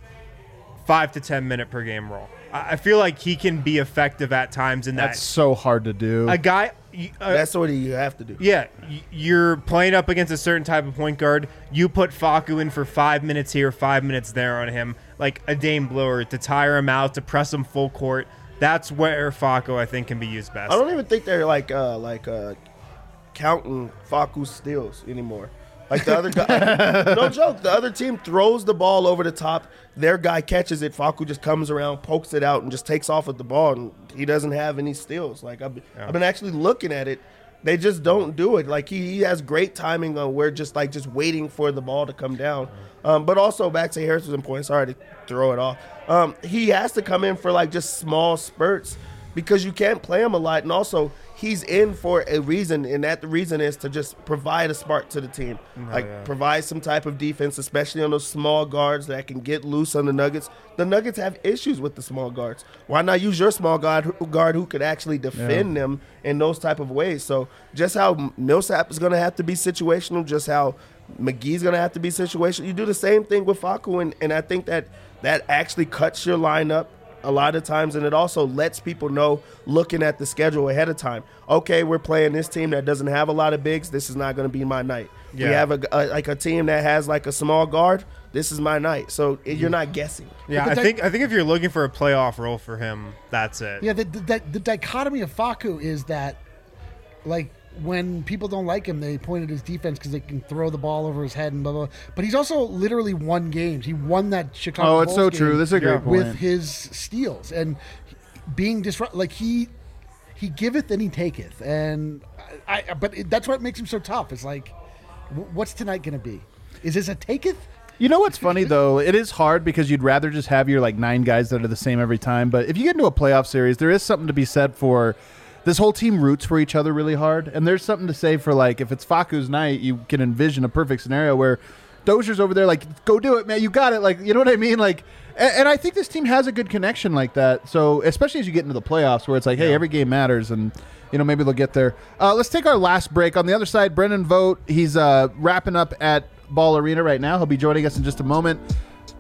five to ten minute per game role. I I feel like he can be effective at times in That's that. so hard to do. A guy, y- uh, That's what you have to do. yeah, y- you're playing up against a certain type of point guard. You put Facu in for five minutes here, five minutes there on him, like a Dame blower to tire him out, to press him full court. That's where Facu, I think, can be used best. I don't even think they're like uh, like uh, counting Facu's steals anymore. Like the other guy, no joke. The other team throws the ball over the top. Their guy catches it. Facu just comes around, pokes it out, and just takes off with the ball. And he doesn't have any steals. Like I've, Yeah. I've been actually looking at it. They just don't do it. Like he, he has great timing on where just like just waiting for the ball to come down. Um, but also back to Harrison's point. Sorry to throw it off. Um, he has to come in for like just small spurts because you can't play him a lot. And also he's in for a reason, and that the reason is to just provide a spark to the team. like yeah. provide some type of defense, especially on those small guards that can get loose on the Nuggets. The Nuggets have issues with the small guards. Why not use your small guard who, guard who could actually defend them in those type of ways? So just how Millsap is going to have to be situational, just how McGee's going to have to be situational. You do the same thing with Facu, and, and I think that that actually cuts your lineup a lot of times, and it also lets people know, looking at the schedule ahead of time, okay, we're playing this team that doesn't have a lot of bigs. This is not going to be my night. We Yeah. have a, a like a team that has like a small guard. This is my night. So it, you're not guessing. Yeah, But I that- think I think if you're looking for a playoff role for him, that's it. Yeah, the, the, the dichotomy of Facu is that, like, when people don't like him, they point at his defense because they can throw the ball over his head and blah, blah, blah. But he's also literally won games. He won that Chicago oh, it's so Bulls true. game This is a great Yeah. point. with his steals and being disrupt. Like, he he giveth and he taketh. And I, I but it, that's what makes him so tough. It's like, wh- what's tonight going to be? Is this a taketh? You know what's funny though? It is hard because you'd rather just have your like nine guys that are the same every time. But if you get into a playoff series, there is something to be said for this whole team roots for each other really hard. And there's something to say for like if it's Facu's night, you can envision a perfect scenario where Dozier's over there like, go do it, man. You got it. Like, you know what I mean? Like, and, and I think this team has a good connection like that. So especially as you get into the playoffs where it's like, hey, every game matters and you know, maybe they'll get there. Uh, let's take our last break. On the other side, Brendan Vogt. He's uh, wrapping up at Ball Arena right now. He'll be joining us in just a moment. But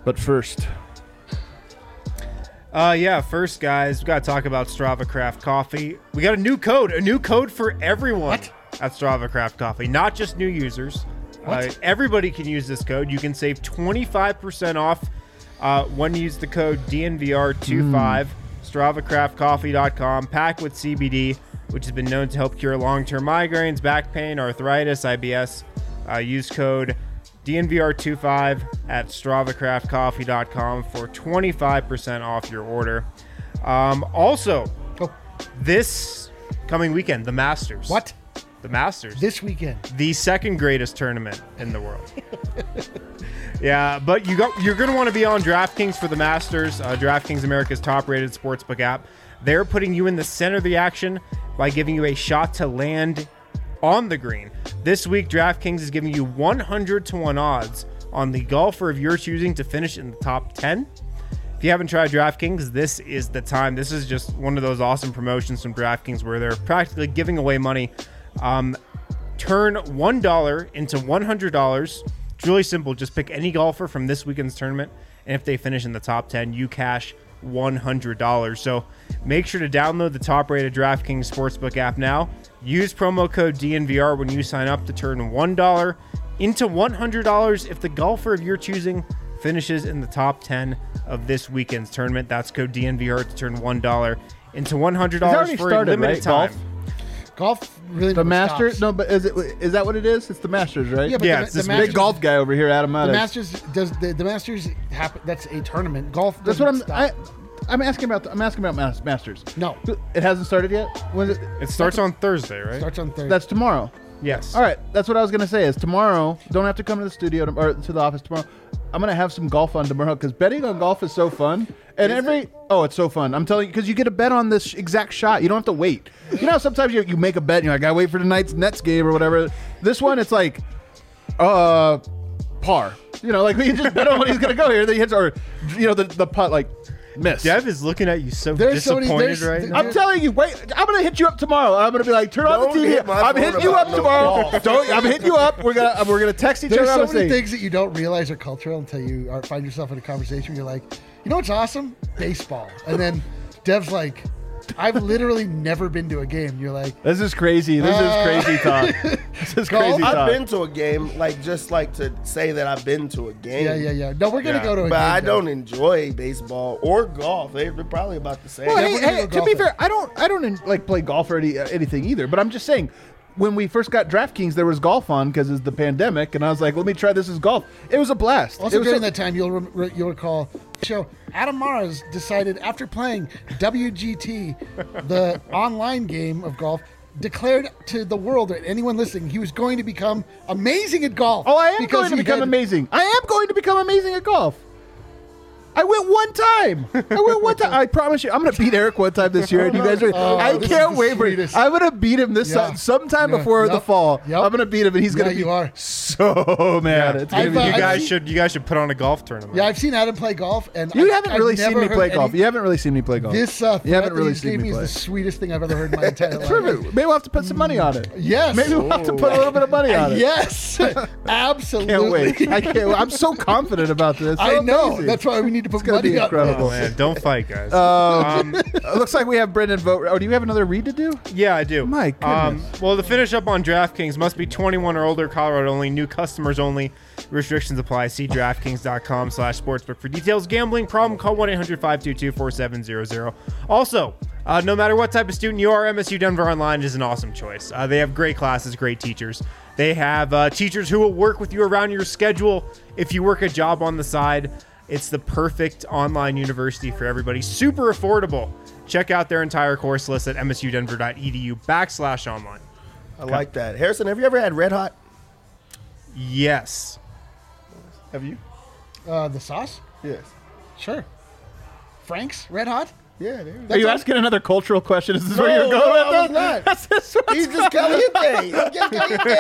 But first, Uh, yeah, first, guys, we got to talk about Strava Craft Coffee. We got a new code, a new code for everyone What? at Strava Craft Coffee, not just new users. Uh, everybody can use this code. You can save twenty-five percent off uh, when you use the code D N V R twenty-five. Strava Craft Coffee dot com, packed with C B D, which has been known to help cure long-term migraines, back pain, arthritis, I B S. Uh, use code D N V R twenty-five at Strava Craft Coffee dot com for twenty-five percent off your order. Um, also, Oh, this coming weekend, the Masters. what? The Masters. This weekend. The second greatest tournament in the world. Yeah, but you got you're going to want to be on DraftKings for the Masters. Uh, DraftKings, America's top-rated sportsbook app. They're putting you in the center of the action by giving you a shot to land on the green. This week, DraftKings is giving you one hundred to one odds on the golfer of your choosing to finish in the top ten. If you haven't tried DraftKings, this is the time. This is just one of those awesome promotions from DraftKings where they're practically giving away money. Um, turn one dollar into one hundred dollars. It's really simple. Just pick any golfer from this weekend's tournament, and if they finish in the top ten, you cash one hundred dollars. So make sure to download the top-rated DraftKings Sportsbook app now. Use promo code D N V R when you sign up to turn one dollar into one hundred dollars if the golfer of your choosing finishes in the top ten of this weekend's tournament. That's code D N V R to turn one dollar into one hundred dollars already for a started, limited right? time. Golf? Golf really the never Masters. stops. No, but is it is that what it is? It's the Masters, right? Yeah, but Yeah, the, it's the this Masters, big golf guy over here, Adam. The Maddux. Masters does the, the Masters happen? That's a tournament. Golf. That's what I'm. doesn't I, stop. I'm asking about. The, I'm asking about mas- Masters. No, It hasn't started yet. When is it? It starts on Thursday, right? starts on Thursday. That's tomorrow. Yes. All right, that's what I was gonna say. Is tomorrow? Don't have to come to the studio to, or to the office tomorrow. I'm gonna have some golf on tomorrow because betting on golf is so fun. And every oh, it's so fun. I'm telling you because you get a bet on this exact shot. You don't have to wait. You know, sometimes you you make a bet and you're like, I wait for tonight's Nets game or whatever. This one, it's like, uh, par. You know, like you just bet on when he's gonna go here. Then he hits or, you know, the the putt like miss. Dev is looking at you so There's so many- disappointed there's- right now. I'm telling you, wait. I'm gonna hit you up tomorrow. I'm gonna be like, turn on Don't the T V. hit my I'm phone hitting you about up no tomorrow. golf. Don't. I'm hitting you up. We're gonna we're gonna text each There's other. I'm so gonna many say, things that you don't realize are cultural until you are, find yourself in a conversation where you're like, you know what's awesome? Baseball. And then Dev's like, I've literally never been to a game. You're like, This is crazy. This Uh, is crazy talk. This is golf? crazy I've talk. been to a game, like just like to say that I've been to a game. yeah, yeah, yeah. No, we're gonna Yeah. go to a But game. I Dev. don't enjoy baseball or golf. They're they're probably about the same. Well, Yeah, hey, we're gonna hey, go to be golfing. fair, I don't I don't like play golf or any, uh, anything either. But I'm just saying, when we first got DraftKings, there was golf on because it's the pandemic, and I was like, let me try this as golf. It was a blast. Also it was during so- that time, you'll rem- re- you'll recall show Adam Mars decided after playing W G T, the online game of golf, declared to the world or anyone listening he was going to become amazing at golf. Oh, I am because going to he become had- amazing. I am going to become amazing at golf. I went one time. I went one time. I promise you, I'm going to beat Eric one time this year. And you guys are. Oh, I this is can't the wait for it. sweetest. I'm going to beat him this Yeah. some- sometime Yeah. before the Yep. fall. Yep. I'm going to beat him, and he's going Yeah, to be you are. so mad. It's gonna I've, be uh, you I've guys seen- should you guys should put on a golf tournament. Yeah, I've seen Adam play golf, and You I- haven't I've really seen never me play heard golf. any- You haven't really seen me play golf. This uh, you haven't threat really that you seen gave me me play. is the sweetest thing I've ever heard in my entire life. Perfect. Maybe we'll have to put some money on it. Yes. Maybe we'll have to put a little bit of money on it. Yes, absolutely. Can't wait. I can't. I'm so confident about this. I So know. amazing. That's why we need to put gonna money be on incredible. Oh, man, don't fight, guys. Um, it looks like we have Brendan vote. Oh, do you have another read to do? Yeah, I do. My Um, goodness. well, to finish up on DraftKings, must be twenty-one or older, Colorado only, new customers only. Restrictions apply. See DraftKings.com slash sportsbook for details. Gambling problem, call one eight hundred five two two four seven zero zero. Also, uh, no matter what type of student you are, M S U Denver Online is an awesome choice. Uh, they have great classes, great teachers. They have uh, teachers who will work with you around your schedule. If you work a job on the side, it's the perfect online university for everybody. Super affordable. Check out their entire course list at msudenver.edu backslash online. I like that. Harrison, have you ever had Red Hot? Yes. Have you? Uh, the sauce? Yes. Sure. Frank's Red Hot? Yeah, there Are you asking another cultural question? Is this No, where you're going no, with I that? was not. That's this one. He's just caliente. He's just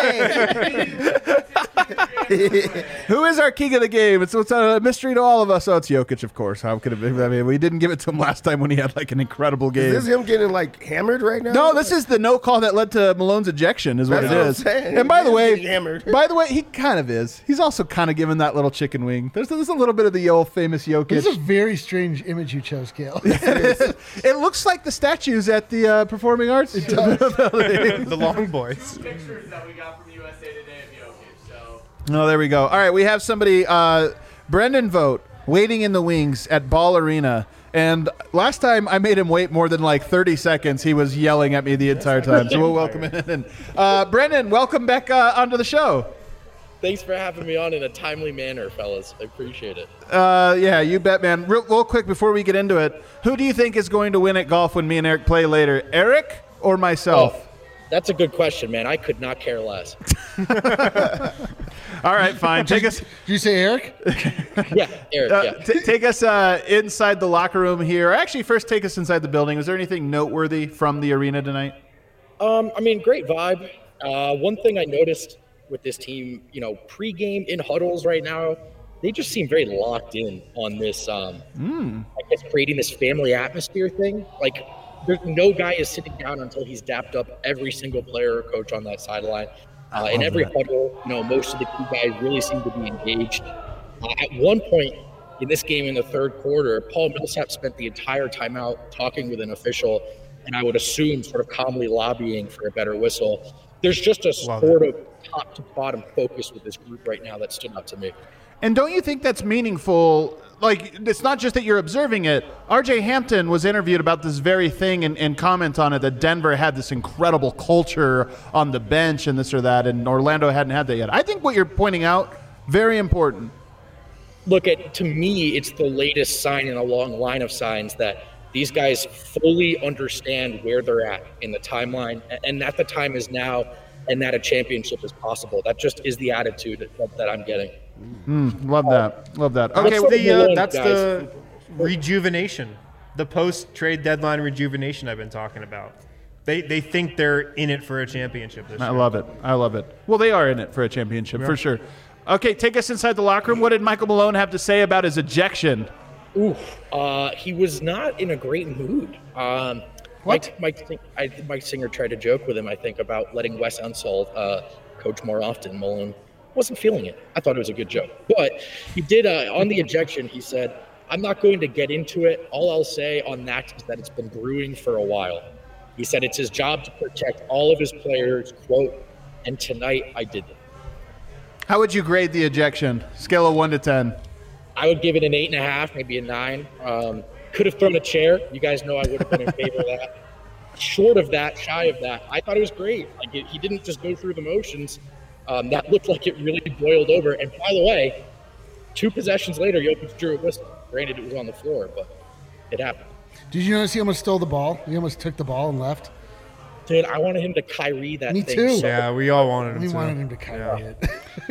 caliente. Who is our king of the game? It's, it's a mystery to all of us. Oh, it's Jokic, of course. How could it be? I mean, we didn't give it to him last time when he had like an incredible game. Is this him getting like hammered right now? No, this is the no call that led to Malone's ejection, is what That's it what I'm is. saying. And by He the is way, getting hammered. by the way, he kind of is. He's also kind of given that little chicken wing. There's, there's a little bit of the old famous Jokic. This is a very strange image you chose, Gail. It looks like the statues at the uh, Performing Arts. The Long Boys. Pictures that we got from U S A Today of Jokic. So Oh, there we go. All right, we have somebody, uh, Brendan Vogt, waiting in the wings at Ball Arena. And last time I made him wait more than like thirty seconds, he was yelling at me the entire time. So we'll welcome him in. Uh, Brendan, welcome back uh, onto the show. Thanks for having me on in a timely manner, fellas. I appreciate it. Uh, yeah, you bet, man. Real, real quick before we get into it, who do you think is going to win at golf when me and Eric play later? Eric or myself? Oh, that's a good question, man. I could not care less. All right, fine. Take us. Did you say Eric? Yeah, Eric, Uh, yeah. t- take us uh, inside the locker room here. Actually, first take us inside the building. Was there anything noteworthy from the arena tonight? Um, I mean, great vibe. Uh, one thing I noticed with this team, you know, pregame in huddles right now, they just seem very locked in on this, um, Mm. I guess, creating this family atmosphere thing. Like, there's no guy is sitting down until he's dapped up every single player or coach on that sideline. Uh, in every huddle, you know, most of the key guys really seem to be engaged. Uh, at one point in this game in the third quarter, Paul Millsap spent the entire timeout talking with an official, and I would assume sort of calmly lobbying for a better whistle. There's just a Love sort of top to bottom focus with this group right now that stood out to me. And don't you think that's meaningful? Like, it's not just that you're observing it. R J Hampton was interviewed about this very thing and, and comment on it, that Denver had this incredible culture on the bench and this or that, and Orlando hadn't had that yet. I think what you're pointing out, very important. Look, at to me, it's the latest sign in a long line of signs that these guys fully understand where they're at in the timeline, and that the time is now, and that a championship is possible. That just is the attitude that, that I'm getting. Mm, love that. Love that. Okay, That's well, the uh, Malone, that's guys. the rejuvenation, the post trade deadline rejuvenation I've been talking about. They they think they're in it for a championship this I year. love it. I love it. Well, they are in it for a championship, for sure. Okay, take us inside the locker room. What did Michael Malone have to say about his ejection? Ooh, uh, he was not in a great mood. Um, What? Mike, Mike, I think Mike Singer tried to joke with him, I think, about letting Wes Unseld uh, coach more often. Malone wasn't feeling it. I thought it was a good joke. But he did, uh, on the ejection, he said, I'm not going to get into it. All I'll say on that is that it's been brewing for a while. He said it's his job to protect all of his players, quote, and tonight I did it. How would you grade the ejection? Scale of one to ten. I would give it an eight and a half, maybe a nine. Um, could have thrown a chair. You guys know I would have been in favor of that. Short of that, shy of that, I thought it was great. Like it, he didn't just go through the motions. Um, that looked like it really boiled over. And by the way, two possessions later, Jokic drew a whistle. Granted, it was on the floor, but it happened. Did you notice he almost stole the ball? He almost took the ball and left. Dude, I wanted him to Kyrie that Me thing. too. So, Yeah, we all wanted him We to. wanted him to carry it.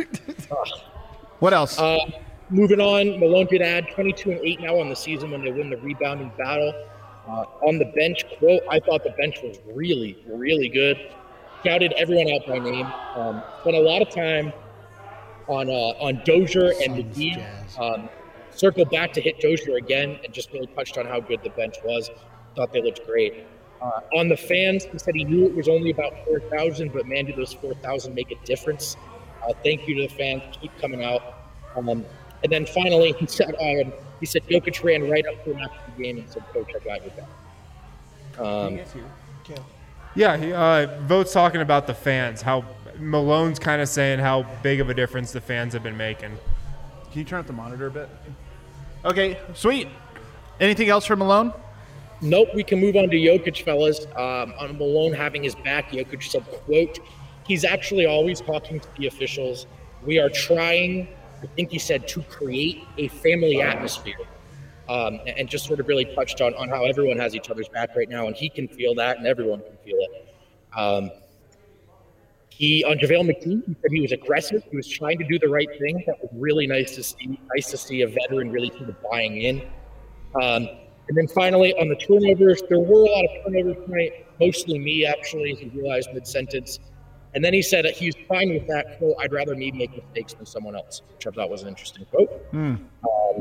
What else? Uh, moving on, Malone did add twenty-two and eight now on the season when they win the rebounding battle. Uh, on the bench, quote, I thought the bench was really, really good. Shouted everyone out by name. Um, spent a lot of time on uh, on Dozier and Suns, McGee. Jazz. Um, circled back to hit Dozier again and just really touched on how good the bench was. Thought they looked great. Uh, on the fans, he said he knew it was only about four thousand, but man, do those four thousand make a difference. Uh, thank you to the fans. Keep coming out. Um, and then finally, he said, um, he said Jokic ran right up to him after the game and said, Coach, I got your back. Um, Yeah, he, uh, Vogt's talking about the fans. How Malone's kind of saying how big of a difference the fans have been making. Can you turn up the monitor a bit? Okay, sweet. Anything else from Malone? Nope, we can move on to Jokic, fellas. Um, on Malone having his back, Jokic said, quote, he's actually always talking to the officials. We are trying, I think he said, to create a family atmosphere. Um, and, and just sort of really touched on, on how everyone has each other's back right now, and he can feel that, and everyone can feel it. Um, he, on JaVale McGee, he said he was aggressive. He was trying to do the right thing. That was really nice to see. Nice to see a veteran really sort of buying in. Um, And then finally, on the turnovers, there were a lot of turnovers tonight, mostly me, actually, he realized mid-sentence. And then he said that he's fine with that. Quote, I'd rather me make mistakes than someone else, which I thought was an interesting quote. Mm. Um,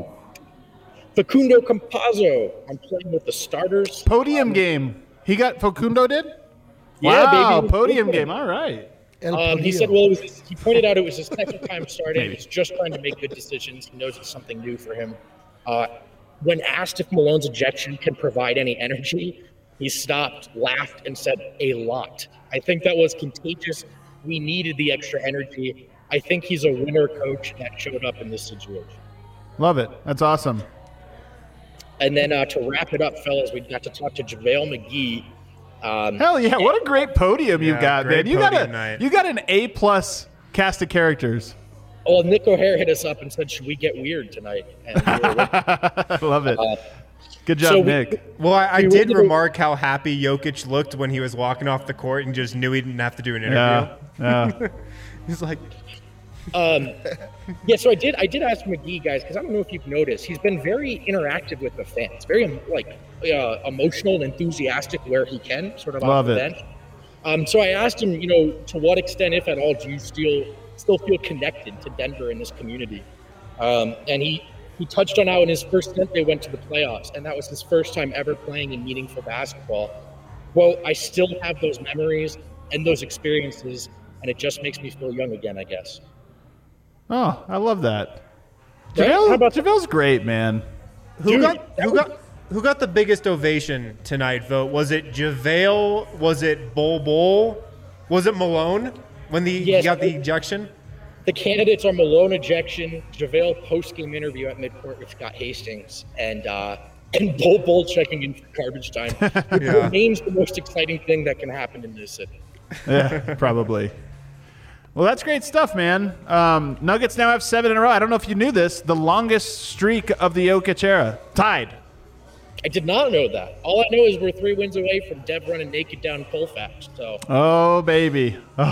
Facundo Campazzo, I'm playing with the starters. Podium um, game. He got Facundo did? Yeah, wow, baby. podium game. All right. Um, he said, well, it was, he pointed out it was his second time starting. He's just trying to make good decisions. He knows it's something new for him. Uh, when asked if Malone's ejection can provide any energy, he stopped, laughed, and said, a lot. I think that was contagious. We needed the extra energy. I think he's a winner coach that showed up in this situation. Love it. That's awesome. And then uh, to wrap it up, fellas, we got to talk to JaVale McGee. Um, Hell yeah! What a great podium you Yeah, got, great man. You got a night. you got an A plus cast of characters. Well, Nick O'Hare hit us up and said, should we get weird tonight? And we were like, I love it. uh, Good job, so we- Nick. Well, I, I We did really- remark how happy Jokic looked when he was walking off the court and just knew he didn't have to do an interview. Yeah. yeah. He's like, Um, yeah, so I did. I did ask McGee, guys, because I don't know if you've noticed, he's been very interactive with the fans, very like uh, emotional and enthusiastic where he can, sort of Love off the it. bench. Um, so I asked him, you know, to what extent, if at all, do you still still feel connected to Denver and this community? Um, and he he touched on how in his first stint they went to the playoffs, and that was his first time ever playing in meaningful basketball. Well, I still have those memories and those experiences, and it just makes me feel young again, I guess. Oh, I love that. Right? How JaVale, about- JaVale's great, man. who Dude, got that who was- got who got the biggest ovation tonight? Vote was it JaVale? Was it Bol Bol? Was it Malone when the, Yes, he got the I- ejection? The candidates are Malone ejection, JaVale post-game interview at midcourt with Scott Hastings, and uh, and Bol Bol checking in for garbage time. Which Yeah. remains the most exciting thing that can happen in this city. Yeah, probably. Well, that's great stuff, man. Um, Nuggets now have seven in a row. I don't know if you knew this. The longest streak of the Jokic era. Tied. I did not know that. All I know is we're three wins away from Dev running naked down Colfax. So Oh, baby.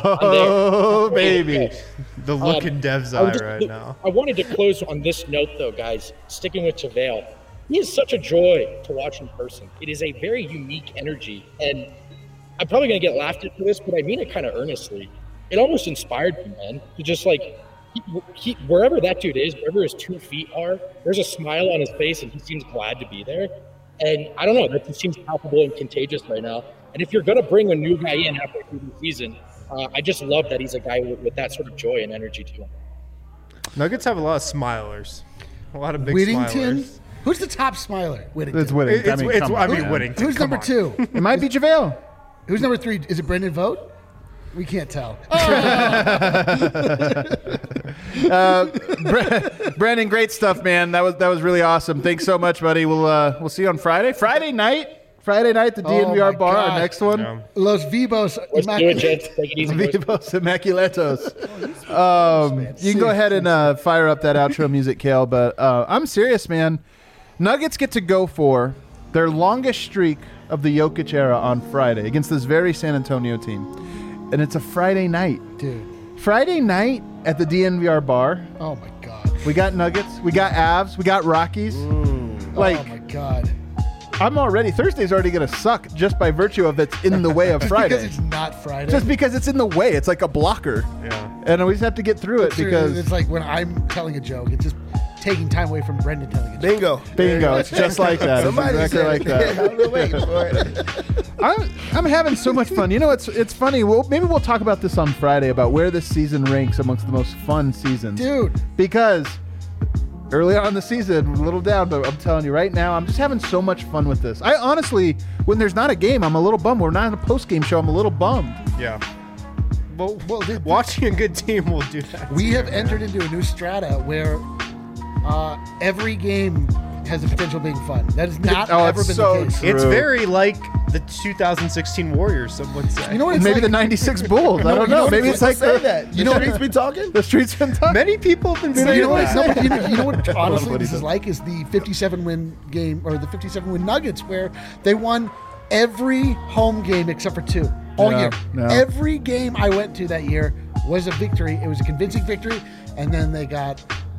Oh, baby. The look Um, in Dev's I was eye just- right now. I wanted to close on this note, though, guys. Sticking with JaVale, he is such a joy to watch in person. It is a very unique energy, and I'm probably going to get laughed at for this, but I mean it kind of earnestly. It almost inspired me, man, to just like, he, he, wherever that dude is, wherever his two feet are, there's a smile on his face, and he seems glad to be there. And I don't know, that just seems palpable and contagious right now. And if you're going to bring a new guy in halfway through the season, uh, I just love that he's a guy with, with that sort of joy and energy to him. Nuggets have a lot of smilers, a lot of big Whittington. smilers. Who's the top smiler? Whittington. It's winning. It's, I mean, it's, come I on, mean, man. Whittington. Who's come number on. two? It might be JaVale. Who's number three? Is it Brendan Vogt? We can't tell. Uh, Bre- Brandon, great stuff, man. That was that was really awesome. Thanks so much, buddy. We'll uh, we'll see you on Friday. Friday night. Friday night, the D N V R Oh, my bar. God. Our next one. Yeah. Los Vivos. Let's do it, Immaculate. gents. Take it easy, boys. Vivos Immaculatos. Um, you can go ahead and uh, fire up that outro music, Kale. But uh, I'm serious, man. Nuggets get to go for their longest streak of the Jokic era on Friday against this very San Antonio team, and it's a Friday night. Dude. Friday night at the D N V R bar. Oh, my God. We got Nuggets. We got Avs. We got Rockies. Like oh, my God. I'm already Thursday's already gonna suck just by virtue of it's in the way of Friday. Because it's not Friday. Just because it's in the way, it's like a blocker. Yeah. And we just have to get through it It's- because it's like when I'm telling a joke, it's just taking time away from Brendan telling a joke. Bingo. bingo. It's just like that. It's Somebody exactly said like it. that. I've been waiting for it. I'm, I'm having so much fun. You know, it's it's funny. Well, maybe we'll talk about this on Friday about where this season ranks amongst the most fun seasons. Dude. Because early on in the season, a little down, but I'm telling you right now, I'm just having so much fun with this. I honestly, when there's not a game, I'm a little bummed. We're not in a post-game show. I'm a little bummed. Yeah. Well, Well, dude, watching a good team will do that. we have entered into a new strata where uh, every game has the potential of being fun. That has not Oh, ever it's been so the case. true. It's very like the two thousand sixteen Warriors, some would say. You know what it's Maybe like? the ninety-six Bulls. I don't you know know. what Maybe it's it's like Say the, that. You You know know what- streets be talking? the streets been talking. Many people have been You saying know, what, that. no, but you know, you know what? Honestly, what he this is said. like is the fifty-seven win game or the fifty-seven win Nuggets, where they won every home game except for two all Yeah, year. yeah. Every game I went to that year was a victory. It was a convincing victory, and then they got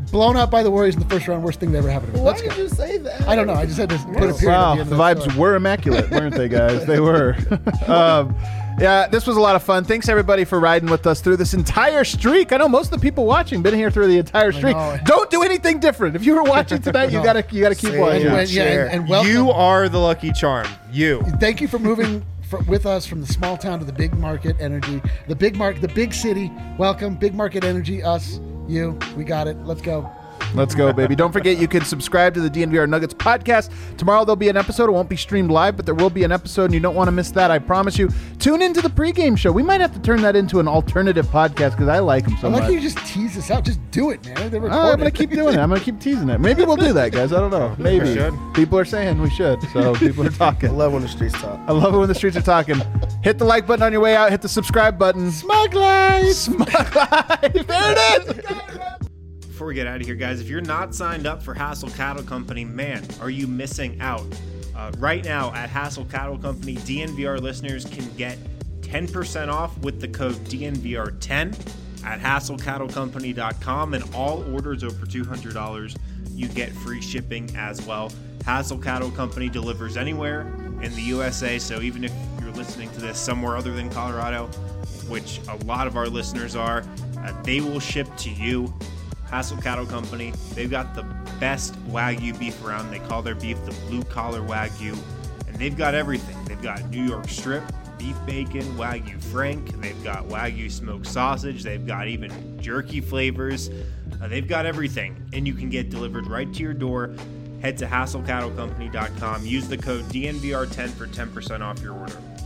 blown out by the Warriors in the first round. Worst thing that ever happened to me. Why Let's did go. you say that? I don't know. I just had to put a period. Wow, at the, end the of that vibes story. were immaculate, weren't they, guys? They were. um, yeah, this was a lot of fun. Thanks, everybody, for riding with us through this entire streak. I know most of the people watching been here through the entire streak. know. Don't do anything different. If you were watching tonight, you No. gotta you gotta keep Say watching. And, when- yeah, Share. and, and welcome. You are the lucky charm. You. Thank you for moving for, with us from the small town to the big market energy. The big market, the big city. Welcome, big market energy. Us, you. We got it. Let's go. Let's go, baby. Don't forget you can subscribe to the D N V R Nuggets podcast. Tomorrow there'll be an episode. It won't be streamed live, but there will be an episode, and you don't want to miss that. I promise you. Tune into the pregame show. We might have to turn that into an alternative podcast because I like them so I like much. how you just tease this out. Just do it, man. They're Oh, I'm recorded. gonna keep doing it. I'm gonna keep teasing it. Maybe we'll do that, guys. I don't know. Maybe. should. People are saying we should, so people are I talking. love when the streets talk. I love it when the streets are talking. Hit the like button on your way out. Hit the subscribe button. Smug life. Smug life. There it is. Before we get out of here, guys, if you're not signed up for Hassel Cattle Company, man, are you missing out? Uh, right now at Hassel Cattle Company, D N V R listeners can get ten percent off with the code D N V R ten at hassel cattle company dot com, and all orders over two hundred dollars, you get free shipping as well. Hassel Cattle Company delivers anywhere in the U S A, so even if you're listening to this somewhere other than Colorado, which a lot of our listeners are, uh, they will ship to you. Hassel Cattle Company, they've got the best Wagyu beef around. They call their beef the blue collar Wagyu, and they've got everything. They've got New York strip, beef bacon, Wagyu Frank, they've got Wagyu smoked sausage, they've got even jerky flavors. Uh, they've got everything, and you can get delivered right to your door. Head to hassel cattle company dot com, use the code D N V R ten for ten percent off your order.